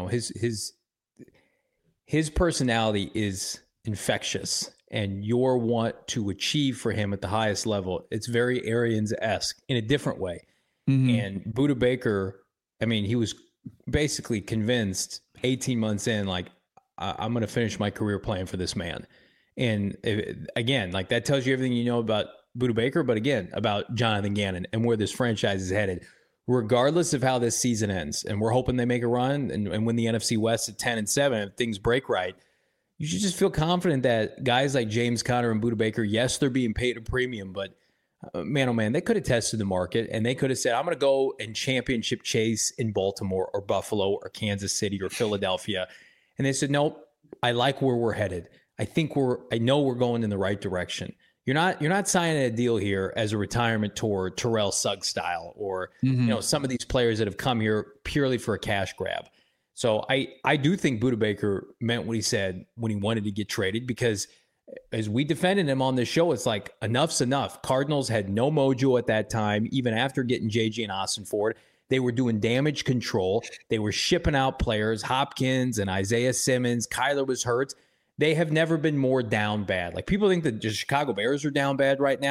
His personality is infectious, and your want to achieve for him at the highest level. It's very Arians-esque in a different way. Mm-hmm. And Budda Baker, he was basically convinced 18 months in, I'm going to finish my career playing for this man. And again, that tells you everything you know about Budda Baker, but again, about Jonathan Gannon and where this franchise is headed, regardless of how this season ends. And we're hoping they make a run and win the NFC West at 10-7. If things break right, you should just feel confident that guys like James Conner and Budda Baker, yes, they're being paid a premium, but man, oh man, they could have tested the market, and they could have said, I'm going to go and championship chase in Baltimore or Buffalo or Kansas City or Philadelphia. And they said, nope, I like where we're headed. I know we're going in the right direction. You're not signing a deal here as a retirement tour, Terrell Suggs style, or some of these players that have come here purely for a cash grab. So I do think Budda Baker meant what he said when he wanted to get traded, because as we defended him on this show, it's enough's enough. Cardinals had no mojo at that time, even after getting JG and Austin Ford. They were doing damage control. They were shipping out players, Hopkins and Isaiah Simmons. Kyler was hurt. They have never been more down bad. People think that the Chicago Bears are down bad right now.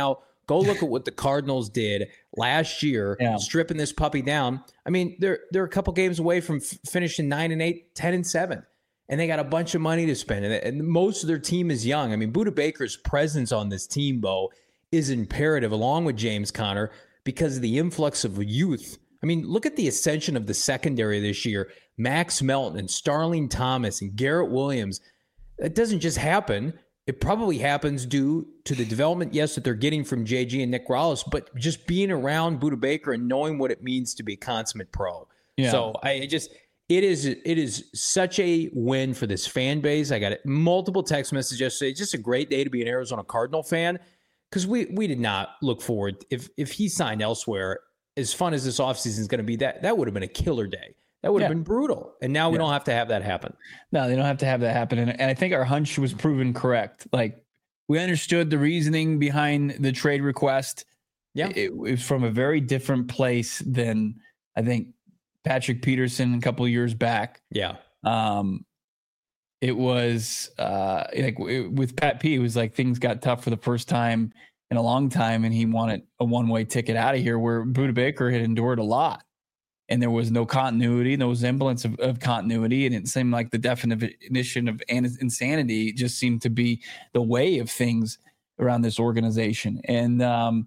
Go look at what the Cardinals did last year, stripping this puppy down. I mean, they're a couple games away from finishing 9-8, 10-7, and they got a bunch of money to spend. And most of their team is young. I mean, Budda Baker's presence on this team, Bo, is imperative, along with James Conner, because of the influx of youth. I mean, look at the ascension of the secondary this year. Max Melton and Starling Thomas and Garrett Williams. That doesn't just happen. It probably happens due to the development, yes, that they're getting from JG and Nick Rallis, but just being around Budda Baker and knowing what it means to be a consummate pro. Yeah. So it is such a win for this fan base. I got multiple text messages yesterday. It's just a great day to be an Arizona Cardinal fan, because we did not look forward. If he signed elsewhere, as fun as this offseason is going to be, that would have been a killer day. That would have been brutal. And now we don't have to have that happen. No, they don't have to have that happen. And I think our hunch was proven correct. Like, we understood the reasoning behind the trade request. Yeah. It was from a very different place than, I think, Patrick Peterson a couple of years back. Yeah. It was with Pat P, it was like things got tough for the first time in a long time, and he wanted a one-way ticket out of here, where Budda Baker had endured a lot. And there was no continuity, no semblance of continuity. And it seemed like the definition of insanity just seemed to be the way of things around this organization. And,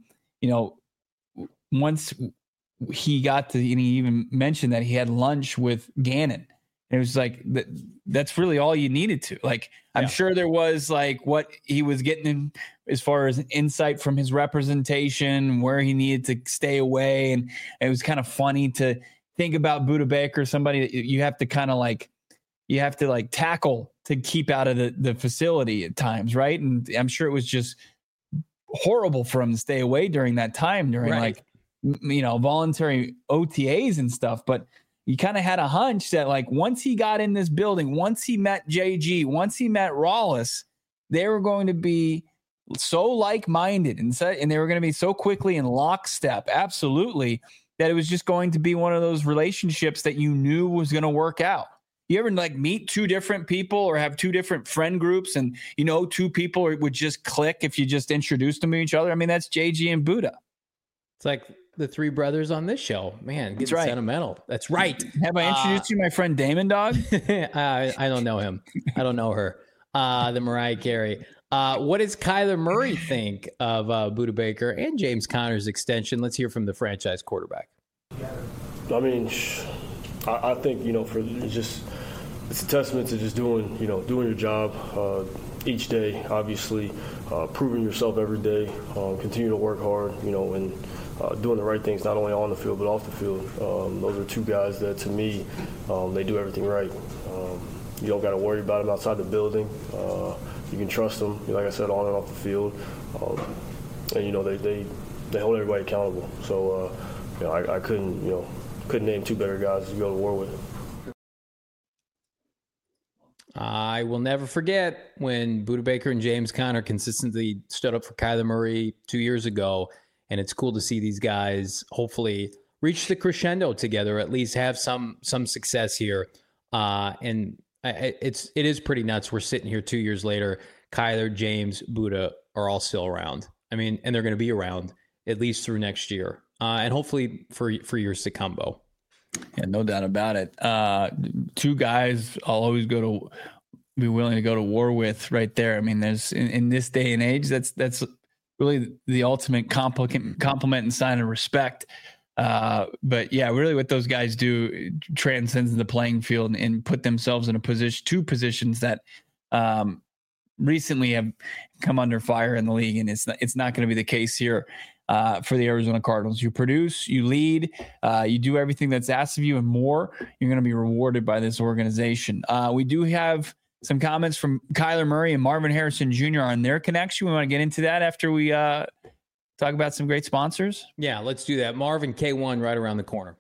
once he got to, and he even mentioned that he had lunch with Gannon. And it was like, that's really all you needed to. Like, I'm sure there was like what he was getting in as far as insight from his representation, where he needed to stay away. And it was kind of funny to think about Budda Baker, somebody that you have to kind of like, tackle to keep out of the facility at times. Right. And I'm sure it was just horrible for him to stay away during that time, during voluntary OTAs and stuff. But you kind of had a hunch that, like, once he got in this building, once he met JG, once he met Rallis, they were going to be so like-minded and they were going to be so quickly in lockstep, absolutely, that it was just going to be one of those relationships that you knew was going to work out. You ever like meet two different people or have two different friend groups, and two people would just click if you just introduced them to each other? I mean, that's JG and Budda. It's like the three brothers on this show. Man, getting sentimental. That's right. Have I introduced you my friend Damon Dog? I don't know him. I don't know her. The Mariah Carey. What does Kyler Murray think of Budda Baker and James Conner's extension? Let's hear from the franchise quarterback. I mean, I think, it's a testament to just doing your job each day, obviously, proving yourself every day, continue to work hard, and doing the right things, not only on the field, but off the field. Those are two guys that, to me, they do everything right. You don't got to worry about them outside the building. You can trust them, like I said, on and off the field. And, they hold everybody accountable. So, I couldn't name two better guys to go to war with. I will never forget when Budda Baker and James Conner consistently stood up for Kyler Murray 2 years ago. And it's cool to see these guys hopefully reach the crescendo together, at least have some success here. It is pretty nuts. We're sitting here 2 years later. Kyler, James, Budda are all still around. I mean, and they're going to be around at least through next year, and hopefully for years to come, Bo. Yeah, no doubt about it. Two guys I'll always be willing to go to war with right there. I mean, there's in this day and age, that's really the ultimate compliment and sign of respect. But yeah, really what those guys do transcends the playing field and put themselves in two positions that recently have come under fire in the league. And it's not going to be the case here for the Arizona Cardinals. You produce, you lead, you do everything that's asked of you and more. You're going to be rewarded by this organization. We do have some comments from Kyler Murray and Marvin Harrison Jr. on their connection. We want to get into that after we talk about some great sponsors. Yeah, let's do that. Marvin, K1 right around the corner.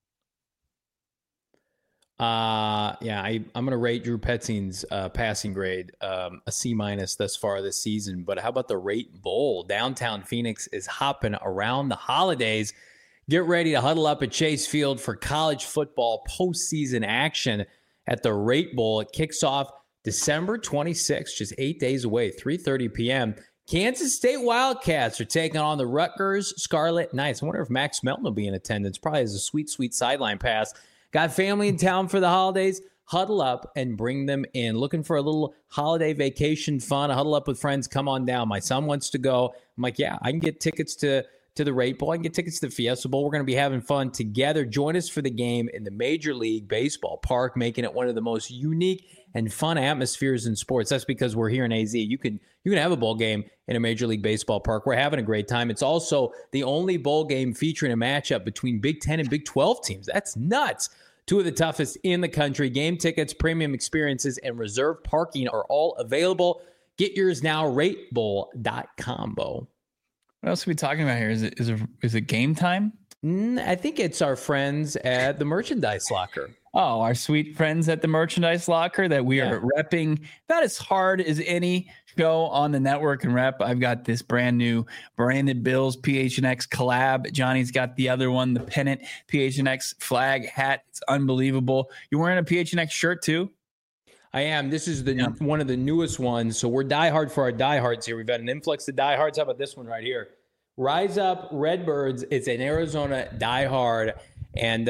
I'm going to rate Drew Petzing's passing grade a C- thus far this season. But how about the Rate Bowl? Downtown Phoenix is hopping around the holidays. Get ready to huddle up at Chase Field for college football postseason action at the Rate Bowl. It kicks off December 26th, just 8 days away, 3:30 p.m. Kansas State Wildcats are taking on the Rutgers Scarlet Knights. I wonder if Max Melton will be in attendance. Probably has a sweet, sweet sideline pass. Got family in town for the holidays. Huddle up and bring them in. Looking for a little holiday vacation fun. Huddle up with friends. Come on down. My son wants to go. I'm like, yeah, I can get tickets to the Rate Bowl. I can get tickets to the Fiesta Bowl. We're going to be having fun together. Join us for the game in the Major League Baseball Park, making it one of the most unique and fun atmospheres in sports. That's because we're here in AZ. You can have a bowl game in a Major League Baseball Park. We're having a great time. It's also the only bowl game featuring a matchup between Big 10 and Big 12 teams. That's nuts. Two of the toughest in the country. Game tickets, premium experiences, and reserved parking are all available. Get yours now, ratebowl.com, Bo. What else are we talking about here? Is it game time? I think it's our friends at the Merchandise Locker. Oh, our sweet friends at the Merchandise Locker that we are repping about as hard as any show on the network and rep. I've got this brand new Branded Bills PHNX collab. Johnny's got the other one, the pennant PHNX flag hat. It's unbelievable. You wearing a PHNX shirt too? I am. This is one of the newest ones. So we're diehard for our diehards here. We've had an influx of diehards. How about this one right here? Rise Up Redbirds. It's an Arizona diehard. And,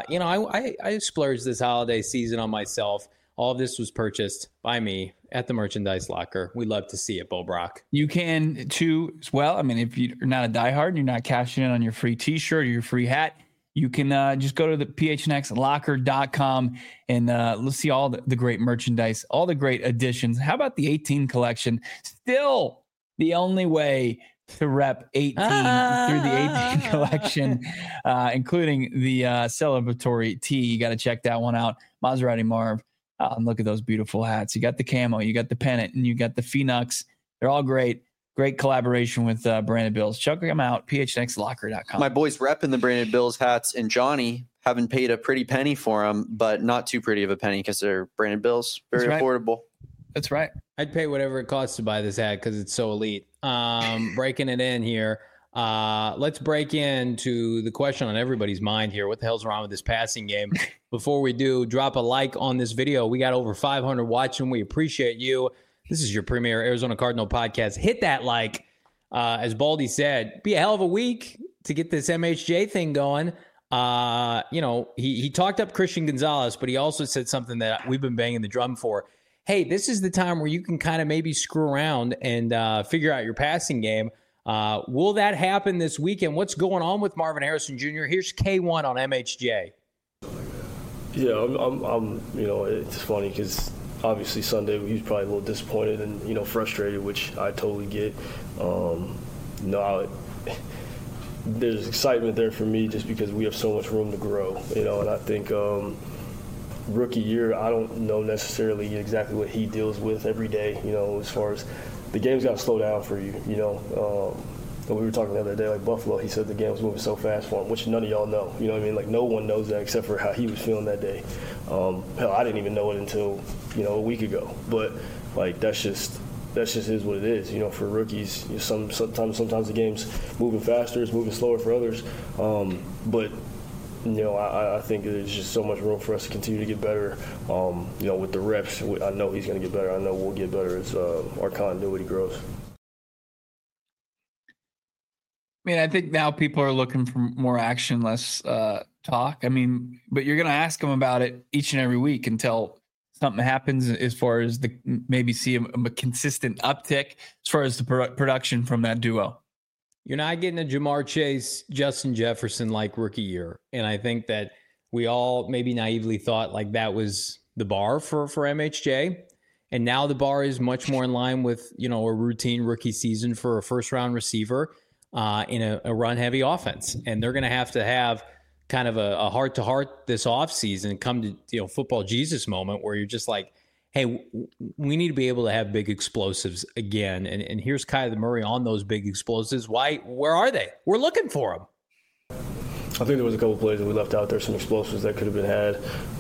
I splurged this holiday season on myself. All of this was purchased by me at the Merchandise Locker. We love to see it, Bo Brock. You can, too, as well. I mean, if you're not a diehard and you're not cashing in on your free T-shirt or your free hat, you can just go to the phnxlocker.com and let's see all the great merchandise, all the great additions. How about the 18 collection? Still the only way to rep 18 through the 18 collection, including the celebratory tee. You got to check that one out. Maserati Marv. And look at those beautiful hats. You got the camo, you got the pennant, and you got the Phoenix. They're all great. Great collaboration with Branded Bills. Check them out, phnxlocker.com. My boys repping the Branded Bills hats, and Johnny haven't paid a pretty penny for them, but not too pretty of a penny because they're Branded Bills. Very affordable. That's right. I'd pay whatever it costs to buy this hat because it's so elite. Breaking it in here. Let's break into the question on everybody's mind here. What the hell's wrong with this passing game? Before we do, drop a like on this video. We got over 500 watching. We appreciate you. This is your premier Arizona Cardinal podcast. Hit that like. As Baldy said, be a hell of a week to get this MHJ thing going. He talked up Christian Gonzalez, but he also said something that we've been banging the drum for. Hey, this is the time where you can kind of maybe screw around and figure out your passing game. Will that happen this weekend? What's going on with Marvin Harrison Jr.? Here's K1 on MHJ. Yeah, I'm it's funny because obviously Sunday he was probably a little disappointed and, frustrated, which I totally get. There's excitement there for me just because we have so much room to grow, and I think rookie year, I don't know necessarily exactly what he deals with every day, as far as the game's got to slow down for you, And we were talking the other day, like Buffalo, he said the game was moving so fast for him, which none of y'all know. You know what I mean? Like, no one knows that except for how he was feeling that day. Hell, I didn't even know it until, a week ago. But, like, that's just is what it is. For rookies, sometimes the game's moving faster, it's moving slower for others. But I think there's just so much room for us to continue to get better. With the reps, I know he's going to get better. I know we'll get better as our continuity grows. I mean, I think now people are looking for more action, less talk. I mean, but you're going to ask them about it each and every week until something happens as far as maybe see a consistent uptick as far as the production from that duo. You're not getting a Jamar Chase, Justin Jefferson like rookie year. And I think that we all maybe naively thought like that was the bar for MHJ. And now the bar is much more in line with, a routine rookie season for a first round receiver in a run heavy offense. And they're going to have kind of a heart to heart this offseason, come to, football Jesus moment where you're just like, hey, we need to be able to have big explosives again. And here's Kyler Murray on those big explosives. Where are they? We're looking for them. I think there was a couple plays that we left out there, some explosives that could have been had.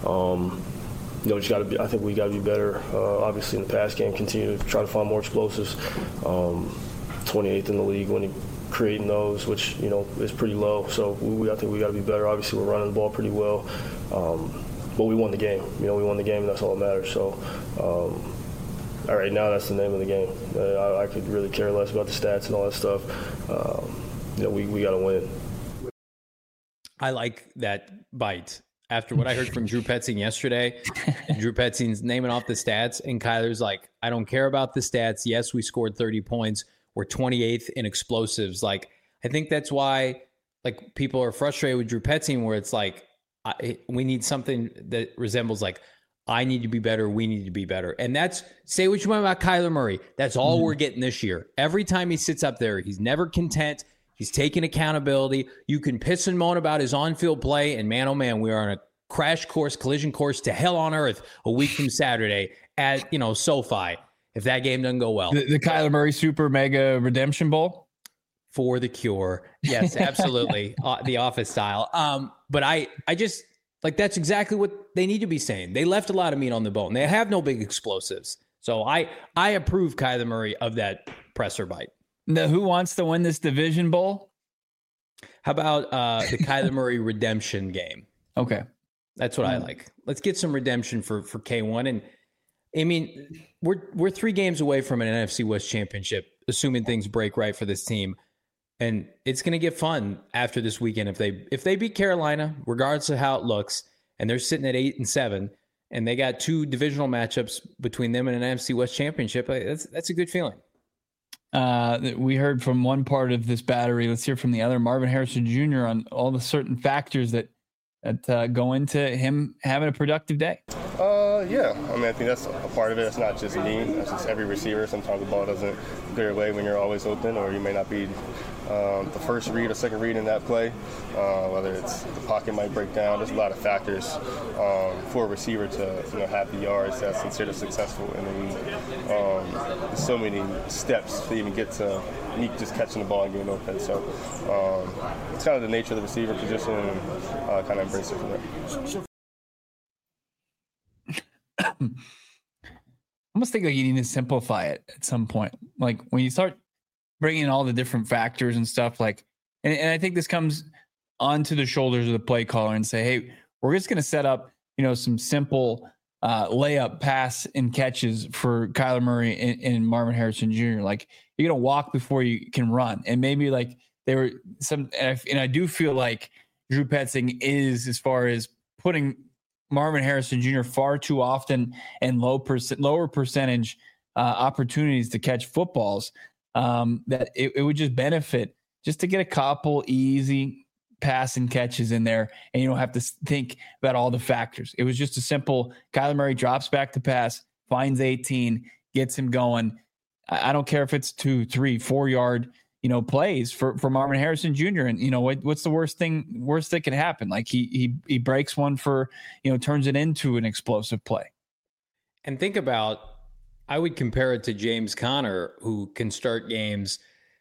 I think we got to be better. Obviously, in the pass game, continue to try to find more explosives. 28th in the league when creating those, which is pretty low. So I think we got to be better. Obviously, we're running the ball pretty well. But we won the game. We won the game, and that's all that matters. So, all right, now that's the name of the game. I could really care less about the stats and all that stuff. We got to win. I like that bite. After what I heard from Drew Petzing yesterday, Drew Petzing's naming off the stats, and Kyler's like, I don't care about the stats. Yes, we scored 30 points. We're 28th in explosives. Like, I think that's why like people are frustrated with Drew Petzing, where it's like, we need something that resembles like, I need to be better. We need to be better. And that's, say what you want about Kyler Murray. That's all we're getting this year. Every time he sits up there, he's never content. He's taking accountability. You can piss and moan about his on-field play, and man, oh man, we are on a collision course to hell on earth a week from Saturday at, SoFi, if that game doesn't go well. The Kyler Murray Super Mega Redemption Bowl? For the cure. Yes, absolutely. The Office style. But I just, like, that's exactly what they need to be saying. They left a lot of meat on the bone. They have no big explosives. So I approve Kyler Murray of that presser bite. Now, who wants to win this division bowl? How about the Kyler Murray redemption game? Okay. That's what I like. Let's get some redemption for K1. And I mean, we're 3 games away from an NFC West championship, assuming things break right for this team. And it's going to get fun after this weekend. If they beat Carolina, regardless of how it looks, and they're sitting at 8-7, and they got 2 divisional matchups between them and an NFC West championship, that's a good feeling. We heard from one part of this battery. Let's hear from the other. Marvin Harrison Jr. on all the certain factors that go into him having a productive day. Yeah, I mean, I think that's a part of it. It's not just me. That's just every receiver. Sometimes the ball doesn't go your way when you're always open, or you may not be the first read or second read in that play. Whether it's the pocket might break down. There's a lot of factors for a receiver to have the yards that's considered successful in the league. There's so many steps to even get to me just catching the ball and getting open. So it's kind of the nature of the receiver position, and kind of embrace it from there. I almost think like you need to simplify it at some point. Like when you start bringing in all the different factors and stuff, like, and I think this comes onto the shoulders of the play caller and say, hey, we're just going to set up, some simple layup pass and catches for Kyler Murray and Marvin Harrison Jr. Like you're going to walk before you can run. And maybe like there were some, and I do feel like Drew Petzing is, as far as putting Marvin Harrison Jr. far too often and lower percentage opportunities to catch footballs, that it would just benefit just to get a couple easy pass and catches in there, and you don't have to think about all the factors. It was just a simple Kyler Murray drops back to pass, finds 18, gets him going. I don't care if it's 2, 3, 4 yard plays for Marvin Harrison Jr. And what's the worst that can happen? Like he breaks one for, turns it into an explosive play. And think about, I would compare it to James Conner, who can start games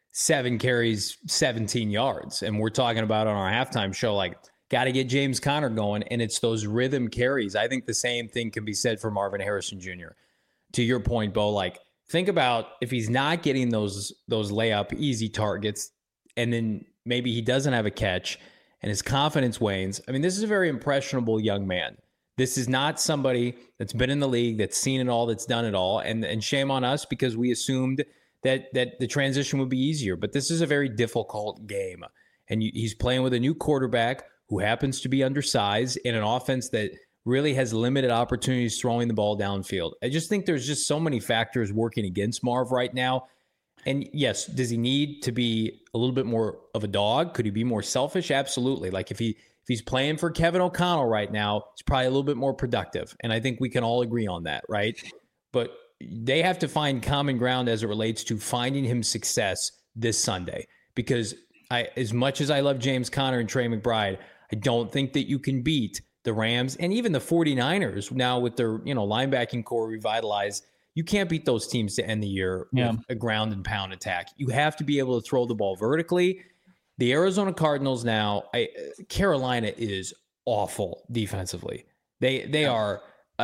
7 carries, 17 yards. And we're talking about on our halftime show, like, got to get James Conner going. And it's those rhythm carries. I think the same thing can be said for Marvin Harrison Jr. To your point, Bo, like, think about if he's not getting those layup easy targets, and then maybe he doesn't have a catch and his confidence wanes. I mean, this is a very impressionable young man. This is not somebody that's been in the league, that's seen it all, that's done it all. And shame on us because we assumed that the transition would be easier. But this is a very difficult game. And he's playing with a new quarterback who happens to be undersized in an offense that really has limited opportunities throwing the ball downfield. I just think there's just so many factors working against Marv right now. And yes, does he need to be a little bit more of a dog? Could he be more selfish? Absolutely. Like if he's playing for Kevin O'Connell right now, he's probably a little bit more productive. And I think we can all agree on that, right? But they have to find common ground as it relates to finding him success this Sunday. Because as much as I love James Conner and Trey McBride, I don't think that you can beat the Rams and even the 49ers now with their, linebacking core revitalized. You can't beat those teams to end the year with a ground and pound attack. You have to be able to throw the ball vertically. The Arizona Cardinals now, Carolina is awful defensively. They are,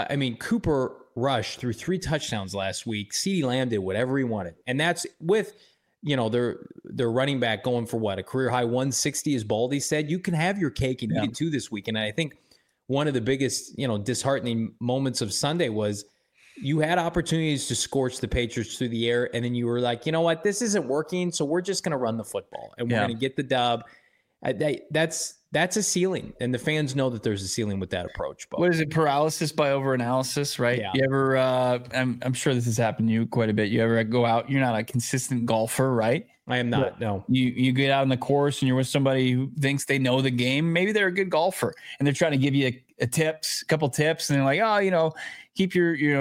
Cooper Rush threw 3 touchdowns last week. CeeDee Lamb did whatever he wanted. And that's with, their running back going for what? A career high 160, as Baldy said. You can have your cake and eat it too this week. And I think one of the biggest, disheartening moments of Sunday was you had opportunities to scorch the Patriots through the air, and then you were like, you know what, this isn't working, so we're just going to run the football, and we're going to get the dub. That's a ceiling, and the fans know that there's a ceiling with that approach. But what is it? Paralysis by overanalysis, right? Yeah. You ever? I'm sure this has happened to you quite a bit. You ever go out? You're not a consistent golfer, right? I am not. No. You get out on the course and you're with somebody who thinks they know the game. Maybe they're a good golfer and they're trying to give you a couple tips, and they're like, oh, keep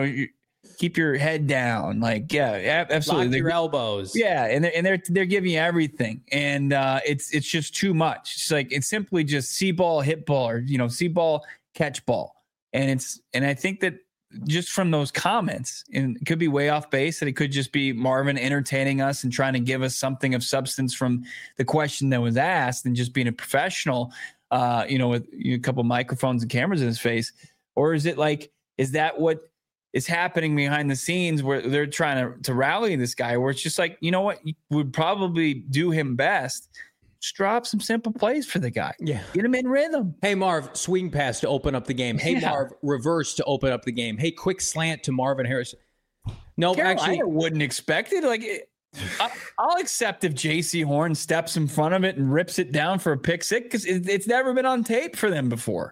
your head down. Like, yeah, absolutely. Lock your elbows. Yeah, and they're giving you everything, and it's just too much. It's like it's simply just see ball, hit ball, or see ball, catch ball, and I think that just from those comments, and it could be way off base, and it could just be Marvin entertaining us and trying to give us something of substance from the question that was asked, and just being a professional, with a couple microphones and cameras in his face, or is that what is happening behind the scenes where they're trying to rally this guy, where it's just like, you know what, would probably do him best. Just drop some simple plays for the guy. Yeah. Get him in rhythm. Hey, Marv, swing pass to open up the game. Hey, Marv, reverse to open up the game. Hey, quick slant to Marvin Harrison. No, actually, I wouldn't expect it. Like, I'll accept if J.C. Horn steps in front of it and rips it down for a pick six, because it's never been on tape for them before.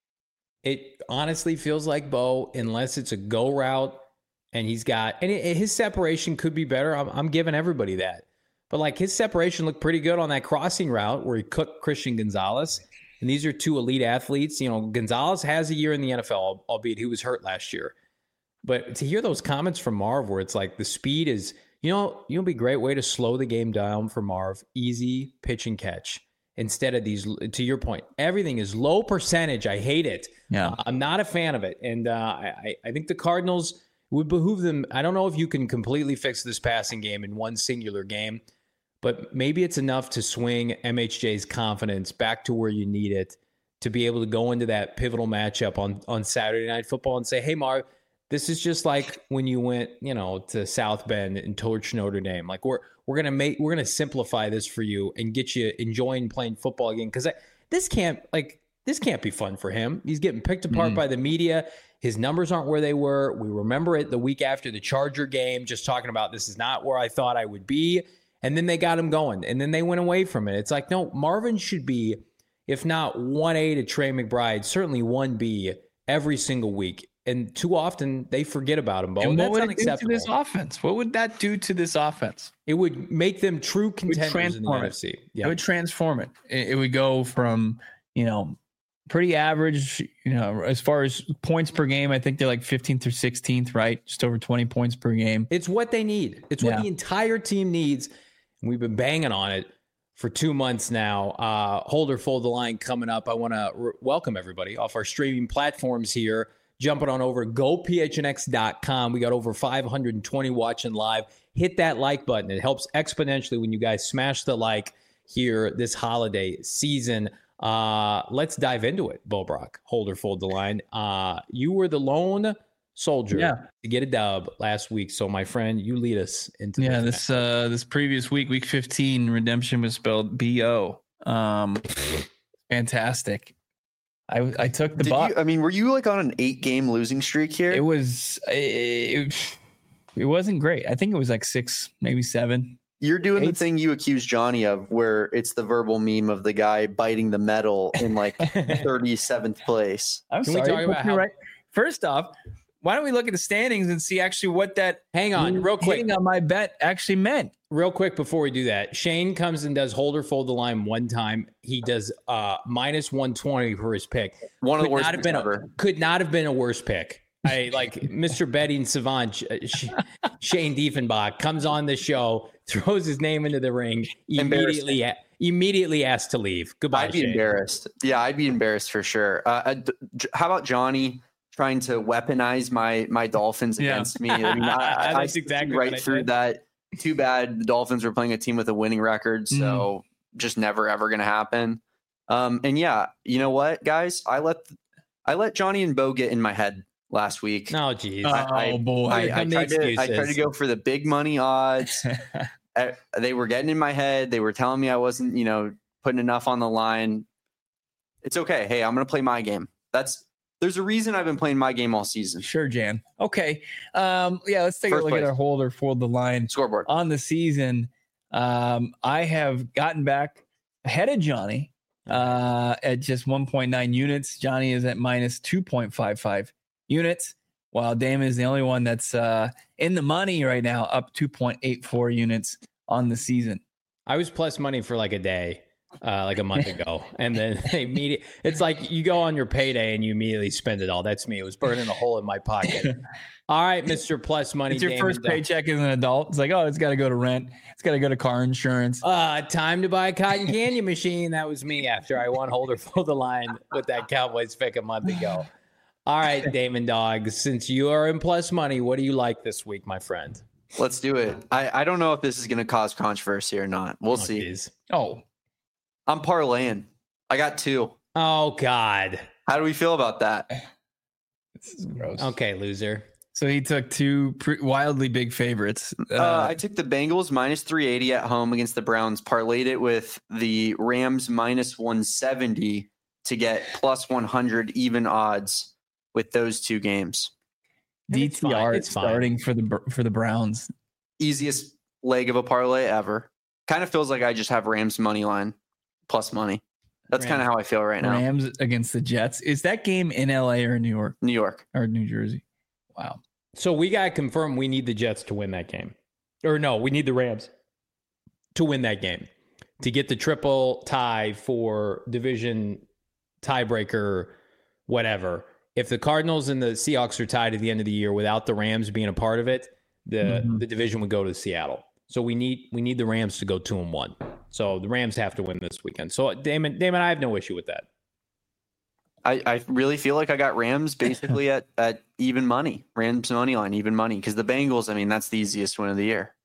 It honestly feels like Bo, unless it's a go route and his separation could be better. I'm giving everybody that. But like, his separation looked pretty good on that crossing route where he cooked Christian Gonzalez. And these are two elite athletes. Gonzalez has a year in the NFL, albeit he was hurt last year. But to hear those comments from Marv where it's like the speed is, it'll be a great way to slow the game down for Marv. Easy pitch and catch. Instead of these, to your point, everything is low percentage. I hate it. Yeah. I'm not a fan of it. And I think the Cardinals would behoove them. I don't know if you can completely fix this passing game in one singular game, but maybe it's enough to swing MHJ's confidence back to where you need it to be able to go into that pivotal matchup on Saturday Night Football and say, hey, Marv, this is just like when you went, to South Bend and torched Notre Dame. Like, we're gonna simplify this for you and get you enjoying playing football again, because this can't be fun for him. He's getting picked apart by the media. His numbers aren't where they were. We remember it the week after the Charger game, just talking about, this is not where I thought I would be. And then they got him going, and then they went away from it. It's like, no, Marvin should be, if not 1A to Trey McBride, certainly 1B every single week. And too often they forget about him. And that's what would unacceptable. it do to this offense? What would that do to this offense? It would make them true contenders in the NFC. Yeah. It would transform it. It would go from, pretty average, as far as points per game. I think they're like 15th or 16th, right? Just over 20 points per game. It's what they need. It's what the entire team needs. And we've been banging on it for 2 months now. Hold or Fold the Line coming up. I want to welcome everybody off our streaming platforms here. Jumping on over gophnx.com. We got over 520 watching live. Hit that like button. It helps exponentially when you guys smash the like here this holiday season. Let's dive into it, Bo Brock. Hold or Fold the Line. You were the lone soldier to get a dub last week. So, my friend, you lead us into this previous week 15, redemption was spelled B-O. Fantastic. I took the bot. Were you like on an 8-game losing streak here? It wasn't great. I think it was like 6, maybe 7. You're doing the thing you accused Johnny of, where it's the verbal meme of the guy biting the metal in like 37th place. I'm sorry. We talk about right? First off, why don't we look at the standings and see actually what that hang on real quick on my bet actually meant? Real quick before we do that, Shane comes and does Hold or Fold the Line one time. He does minus 120 for his pick. One of the worst ever. Could not have been a worse pick. I like Mr. Betting Savant, Shane Diefenbach comes on the show, throws his name into the ring, immediately asked to leave. Goodbye, I'd be embarrassed. Yeah, I'd be embarrassed for sure. How about Johnny trying to weaponize my Dolphins against me? I exactly right through that. Too bad the Dolphins were playing a team with a winning record, so just never ever going to happen. And yeah, you know what, guys? I let Johnny and Bo get in my head last week. Oh, geez. Boy. I tried to go for the big money odds. They were getting in my head. They were telling me I wasn't, putting enough on the line. It's okay. Hey, I'm going to play my game. There's There's a reason I've been playing my game all season. Sure, Jan. Okay. Let's take a look at our hold the line scoreboard on the season. I have gotten back ahead of Johnny at just 1.9 units. Johnny is at minus 2.55 units, while Damon is the only one that's in the money right now, up 2.84 units on the season. I was plus money for like a day, like a month ago, and then it's like you go on your payday and you immediately spend it all. That's me. It was burning a hole in my pocket. All right, Mr. Plus Money. It's your first paycheck as an adult. It's like, oh, it's got to go to rent. It's got to go to car insurance. Time to buy a cotton candy machine. That was me after I won Holder for the Line with that Cowboys pick a month ago. All right, Damon Dog, since you are in Plus Money, what do you like this week, my friend? Let's do it. I don't know if this is going to cause controversy or not. We'll see. Geez. Oh, I'm parlaying. I got 2. Oh, God. How do we feel about that? This is gross. Okay, loser. So he took 2 wildly big favorites. I took the Bengals minus 380 at home against the Browns, parlayed it with the Rams minus 170 to get plus 100 even odds with those 2 games. DTR starting for the Browns. Easiest leg of a parlay ever. Kind of feels like I just have Rams money line plus money. That's kind of how I feel right now. Rams against the Jets. Is that game in LA or New York? New York or New Jersey. Wow. So we got to confirm we need the Jets to win that game. Or no, we need the Rams to win that game to get the triple tie for division tiebreaker, whatever. If the Cardinals and the Seahawks are tied at the end of the year without the Rams being a part of it, the division would go to Seattle. So we need the Rams to go 2-1. So the Rams have to win this weekend. So Damon, I have no issue with that. I really feel like I got Rams basically at even money. Rams money line, even money. Because the Bengals, I mean, that's the easiest win of the year.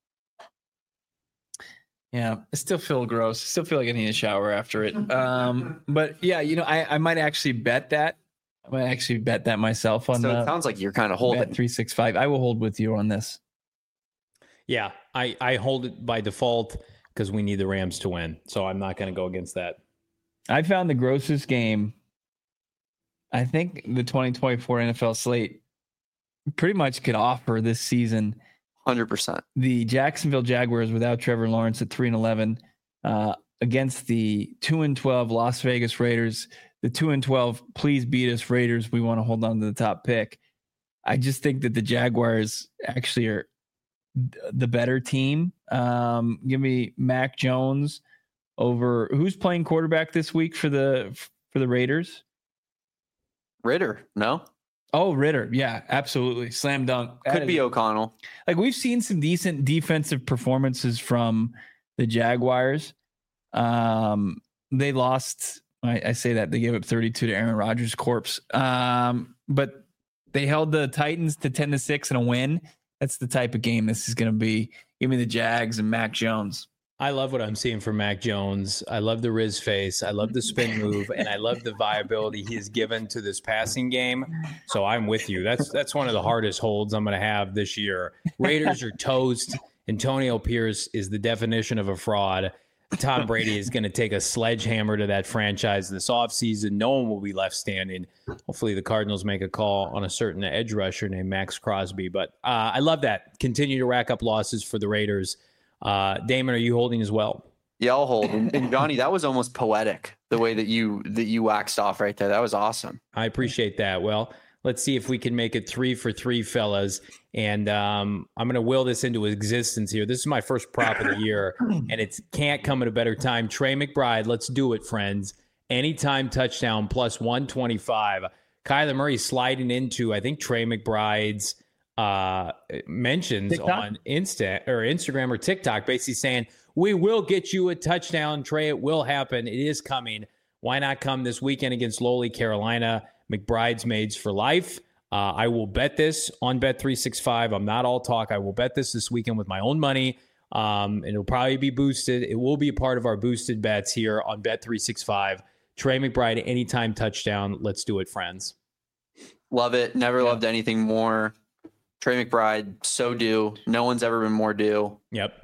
Yeah, I still feel gross. I still feel like I need a shower after it. But yeah, I might actually bet that. I might actually bet that myself on. So it sounds like you're kind of holding. Bet365. I will hold with you on this. Yeah, I hold it by default because we need the Rams to win. So I'm not going to go against that. I found the grossest game. I think the 2024 NFL slate pretty much could offer this season. 100%. The Jacksonville Jaguars without Trevor Lawrence at 3-11 against the 2-12 Las Vegas Raiders. The 2-12, please beat us Raiders. We want to hold on to the top pick. I just think that the Jaguars actually are the better team. Give me Mac Jones over who's playing quarterback this week for the Raiders. Ritter, no? Oh, Ritter. Yeah, absolutely. Slam dunk. Could be O'Connell. Like we've seen some decent defensive performances from the Jaguars. They lost. I say that they gave up 32 to Aaron Rodgers' corpse. But they held the Titans to 10-6 in a win. That's the type of game this is going to be. Give me the Jags and Mac Jones. I love what I'm seeing from Mac Jones. I love the Riz face. I love the spin move, and I love the viability he has given to this passing game. So I'm with you. That's one of the hardest holds I'm going to have this year. Raiders are toast. Antonio Pierce is the definition of a fraud. Tom Brady is going to take a sledgehammer to that franchise this offseason. No one will be left standing. Hopefully the Cardinals make a call on a certain edge rusher named Max Crosby. But I love that. Continue to rack up losses for the Raiders. Damon, are you holding as well? Yeah, I'll hold. And Johnny, that was almost poetic, the way that you waxed off right there. That was awesome. I appreciate that. Well, let's see if we can make it 3 for 3, fellas. And I'm going to will this into existence here. This is my first prop of the year, and it can't come at a better time. Trey McBride, let's do it, friends. Anytime touchdown plus 125. Kyler Murray sliding into, I think, Trey McBride's mentions TikTok? On Instagram or TikTok, basically saying, we will get you a touchdown, Trey. It will happen. It is coming. Why not come this weekend against lowly Carolina? McBride's maids for life. I will bet this on Bet365. I'm not all talk. I will bet this weekend with my own money. And it'll probably be boosted. It will be a part of our boosted bets here on Bet365. Trey McBride, anytime touchdown. Let's do it, friends. Love it. Never loved anything more. Trey McBride, so due. No one's ever been more due. Yep.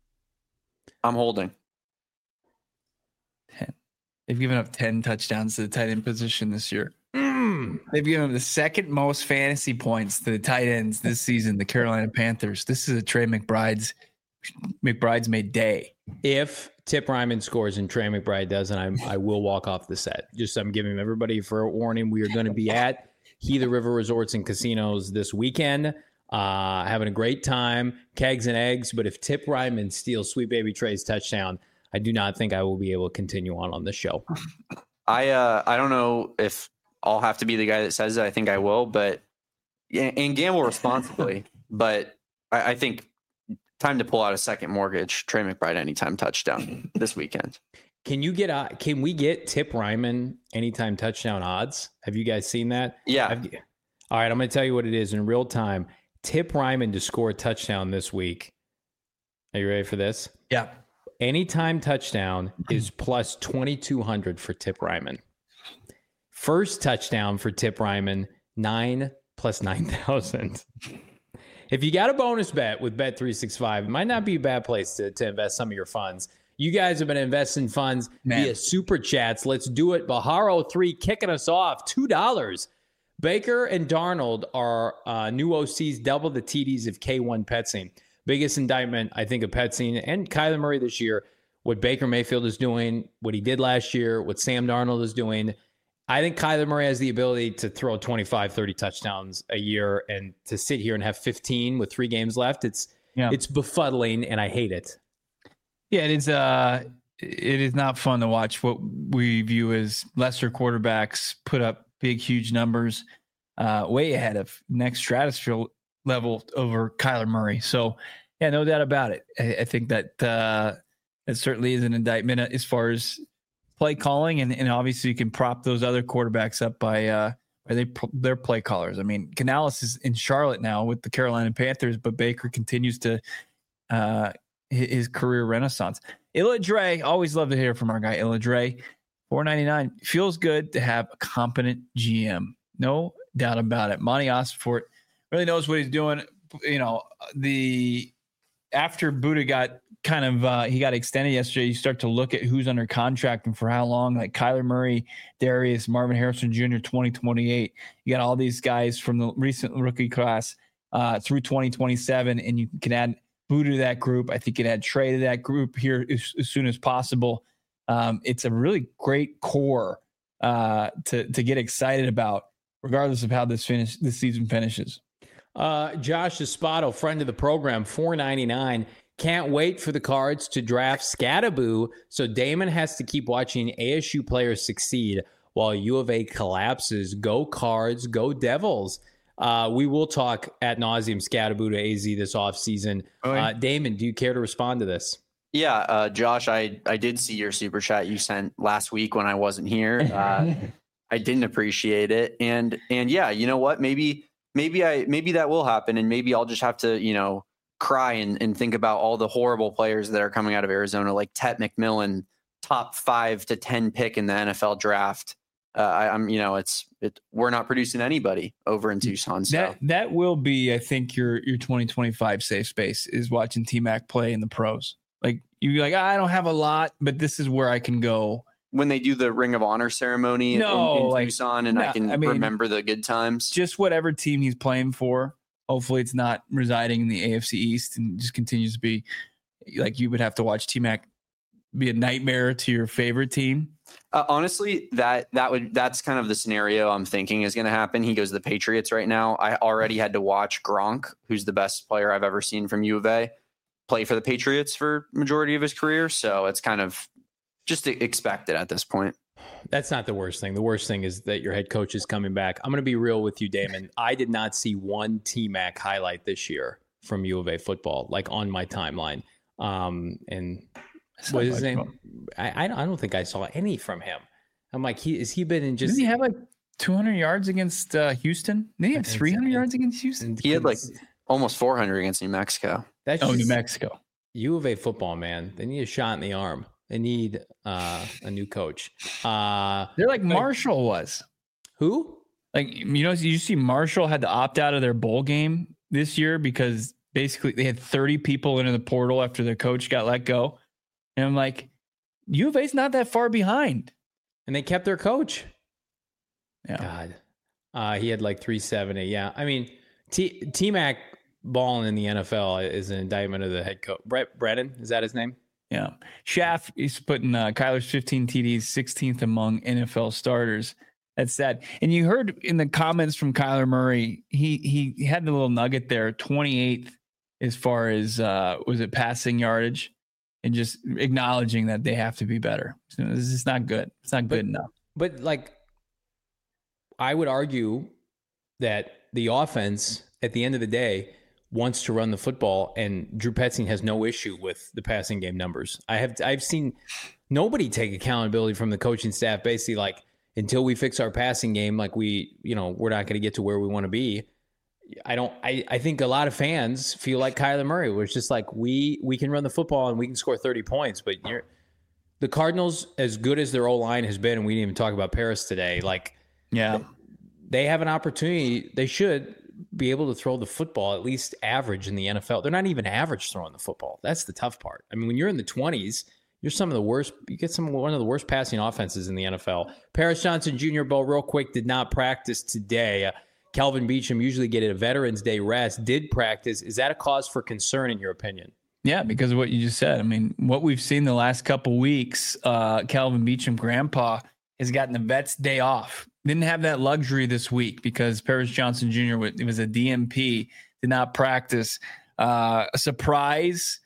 I'm holding. 10. They've given up 10 touchdowns to the tight end position this year. They've given him the second most fantasy points to the tight ends this season, the Carolina Panthers. This is a Trey McBride's made day. If Tip Ryman scores and Trey McBride doesn't, I will walk off the set. Just I'm giving everybody for a warning. We are going to be at Gila River Resorts and Casinos this weekend, having a great time, kegs and eggs. But if Tip Ryman steals Sweet Baby Trey's touchdown, I do not think I will be able to continue on the show. I don't know if I'll have to be the guy that says it. I think I will, but and gamble responsibly. But I think time to pull out a second mortgage. Trey McBride anytime touchdown this weekend. Can we get Tip Ryman anytime touchdown odds? Have you guys seen that? Yeah. All right, I'm going to tell you what it is in real time. Tip Ryman to score a touchdown this week. Are you ready for this? Yeah. Anytime touchdown is plus 2,200 for Tip Ryman. First touchdown for Tip Ryman, 9 plus 9,000. If you got a bonus bet with Bet365, it might not be a bad place to invest some of your funds. You guys have been investing funds via Super Chats. Let's do it. Baharo 3 kicking us off, $2. Baker and Darnold are new OCs, double the TDs of K1 Petsing. Biggest indictment, I think, of Petsing and Kyler Murray this year, what Baker Mayfield is doing, what he did last year, what Sam Darnold is doing. I think Kyler Murray has the ability to throw 25, 30 touchdowns a year, and to sit here and have 15 with 3 games left, it's befuddling, and I hate it. Yeah, it is not fun to watch what we view as lesser quarterbacks put up big, huge numbers way ahead of next stratosphere level over Kyler Murray. So, yeah, no doubt about it. I think that it certainly is an indictment as far as play calling, and obviously you can prop those other quarterbacks up by their play callers. I mean, Canales is in Charlotte now with the Carolina Panthers, but Baker continues to his career renaissance. Illa Dre, always love to hear from our guy Illa Dre. $4.99 feels good to have a competent GM, no doubt about it. Monty Osfort really knows what he's doing. You know, after Buddha got he got extended yesterday, you start to look at who's under contract and for how long, like Kyler Murray, Darius, Marvin Harrison Jr., 2028. You got all these guys from the recent rookie class through 2027, and you can add Buddha to that group. I think you can add Trey to that group here as soon as possible. It's a really great core to get excited about, regardless of how this season finishes. Josh Espada, friend of the program, $4.99. Can't wait for the Cards to draft Scattaboo, so Damon has to keep watching ASU players succeed while U of A collapses. Go Cards, go Devils. We will talk ad nauseum Scattaboo to AZ this offseason. Damon, do you care to respond to this? Yeah, Josh, I did see your super chat you sent last week when I wasn't here. I didn't appreciate it. And yeah, you know what? Maybe that will happen, and maybe I'll just have to, cry and think about all the horrible players that are coming out of Arizona, like Tet McMillan, top 5 to 10 pick in the NFL draft. We're not producing anybody over in Tucson. So that will be, I think, your 2025 safe space is watching T-Mac play in the pros. Like you're like, I don't have a lot, but this is where I can go. When they do the Ring of Honor ceremony in Tucson, and I can remember the good times. Just whatever team he's playing for. Hopefully it's not residing in the AFC East and just continues to be like you would have to watch T-Mac be a nightmare to your favorite team. Honestly, that's kind of the scenario I'm thinking is going to happen. He goes to the Patriots right now. I already had to watch Gronk, who's the best player I've ever seen from U of A, play for the Patriots for majority of his career. So it's kind of just expected at this point. That's not the worst thing. The worst thing is that your head coach is coming back. I'm going to be real with you, Damon. I did not see one T-Mac highlight this year from U of A football, like on my timeline. And what is his name? I don't think I saw any from him. I'm like, has he been in just... Didn't he have like 200 yards against Houston? Didn't he have 300 yards against Houston? He had like almost 400 against New Mexico. New Mexico. U of A football, man. They need a shot in the arm. They need a new coach. They're like Marshall was. Who? Like, you see Marshall had to opt out of their bowl game this year because basically they had 30 people into the portal after their coach got let go. And I'm like, U of A's not that far behind. And they kept their coach. Yeah. God. He had like 370. Yeah. I mean, T-Mac balling in the NFL is an indictment of the head coach. Brett Brennan, is that his name? Yeah. Schaff is putting Kyler's 15 TDs 16th among NFL starters. That's sad. And you heard in the comments from Kyler Murray, he had the little nugget there, 28th as far as was it passing yardage, and just acknowledging that they have to be better. So this is not good. It's not good enough. But like, I would argue that the offense at the end of the day wants to run the football, and Drew Petzing has no issue with the passing game numbers. I've seen nobody take accountability from the coaching staff, basically like, until we fix our passing game, like we're not going to get to where we want to be. I think a lot of fans feel like Kyler Murray, where it's just like, we can run the football and we can score 30 points, but the Cardinals, as good as their O-line has been, and we didn't even talk about Paris today, like, yeah, they have an opportunity. They should be able to throw the football at least average in the NFL. They're not even average throwing the football. That's the tough part. I mean, when you're in the 20s, you're some of the worst. You get one of the worst passing offenses in the NFL. Paris Johnson Jr., Bo, real quick, did not practice today. Kelvin Beachum, usually get a Veterans Day rest, did practice. Is that a cause for concern in your opinion? Yeah, because of what you just said. I mean, what we've seen the last couple weeks, Kelvin Beachum, grandpa, has gotten the vet's day off. Didn't have that luxury this week because Paris Johnson Jr. It was a DMP, did not practice. A surprise,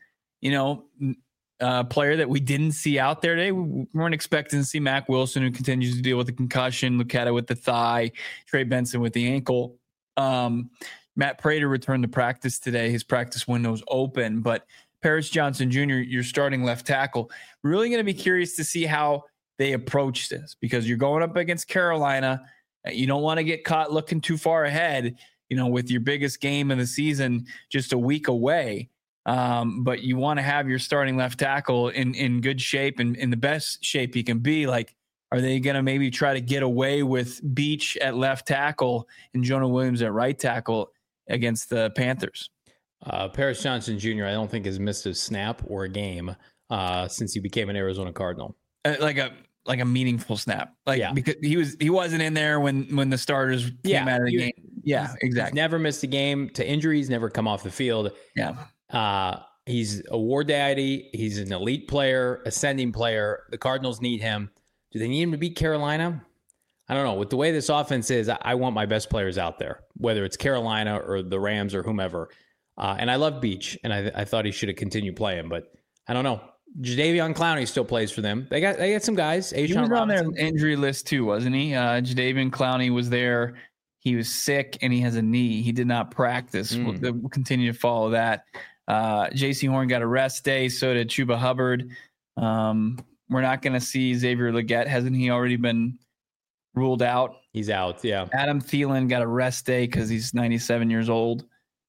player that we didn't see out there today. We weren't expecting to see Mack Wilson, who continues to deal with the concussion, Lucetta with the thigh, Trey Benson with the ankle. Matt Prater returned to practice today. His practice window's open, but Paris Johnson Jr., your starting left tackle, really going to be curious to see how they approach this, because you're going up against Carolina. You don't want to get caught looking too far ahead, with your biggest game of the season just a week away. But you want to have your starting left tackle in good shape and in the best shape he can be. Like, are they going to maybe try to get away with Beach at left tackle and Jonah Williams at right tackle against the Panthers? Paris Johnson Jr., I don't think has missed a snap or a game since he became an Arizona Cardinal. Like a meaningful snap. Because he wasn't in there when the starters came out of the game. Yeah, exactly. He's never missed a game to injuries, never come off the field. Yeah. He's a war daddy. He's an elite player, ascending player. The Cardinals need him. Do they need him to beat Carolina? I don't know. With the way this offense is, I want my best players out there, whether it's Carolina or the Rams or whomever. And I love Beach, and I thought he should have continued playing, but I don't know. Jadeveon Clowney still plays for them. They got some guys. He was on their injury list too, wasn't he? Jadeveon Clowney was there. He was sick and he has a knee. He did not practice. We'll continue to follow that. J.C. Horn got a rest day. So did Chuba Hubbard. We're not going to see Xavier Legette. Hasn't he already been ruled out? He's out. Yeah. Adam Thielen got a rest day because he's 97 years old.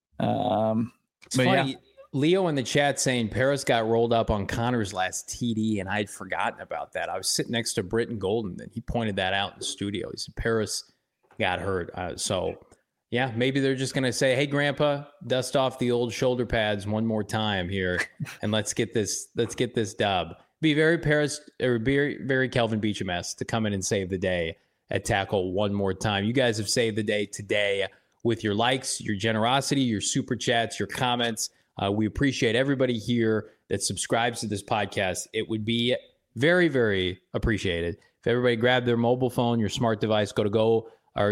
It's funny. Yeah. Leo in the chat saying Paris got rolled up on Connor's last TD, and I'd forgotten about that. I was sitting next to Britton Golden, and he pointed that out in the studio. He said Paris got hurt. So, yeah, maybe they're just going to say, hey, Grandpa, dust off the old shoulder pads one more time here, and let's get this dub. Be very Paris or very, very Kelvin Beachum-esque to come in and save the day at tackle one more time. You guys have saved the day today with your likes, your generosity, your super chats, your comments. We appreciate everybody here that subscribes to this podcast. It would be very, very appreciated if everybody grabbed their mobile phone, your smart device, go to your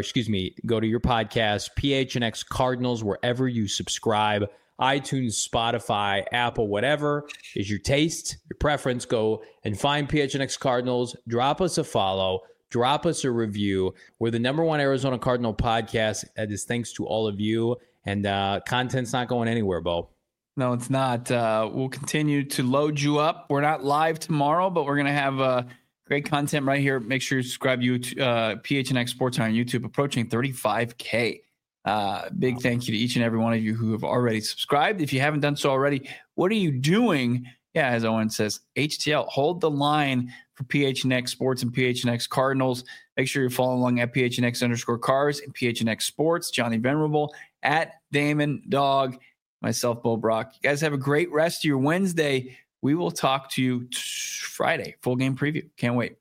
podcast, PHNX Cardinals, wherever you subscribe, iTunes, Spotify, Apple, whatever is your taste, your preference. Go and find PHNX Cardinals. Drop us a follow. Drop us a review. We're the #1 Arizona Cardinal podcast. That is thanks to all of you. And content's not going anywhere, Bo. No, it's not. We'll continue to load you up. We're not live tomorrow, but we're going to have great content right here. Make sure you subscribe to PHNX Sports on YouTube, approaching 35K. Big thank you to each and every one of you who have already subscribed. If you haven't done so already, what are you doing? Yeah, as Owen says, HTL, hold the line for PHNX Sports and PHNX Cardinals. Make sure you're following along at PHNX_Cars and PHNX Sports. Johnny Venerable at Damon Dog. Myself, Bo Brock. You guys have a great rest of your Wednesday. We will talk to you Friday. Full game preview. Can't wait.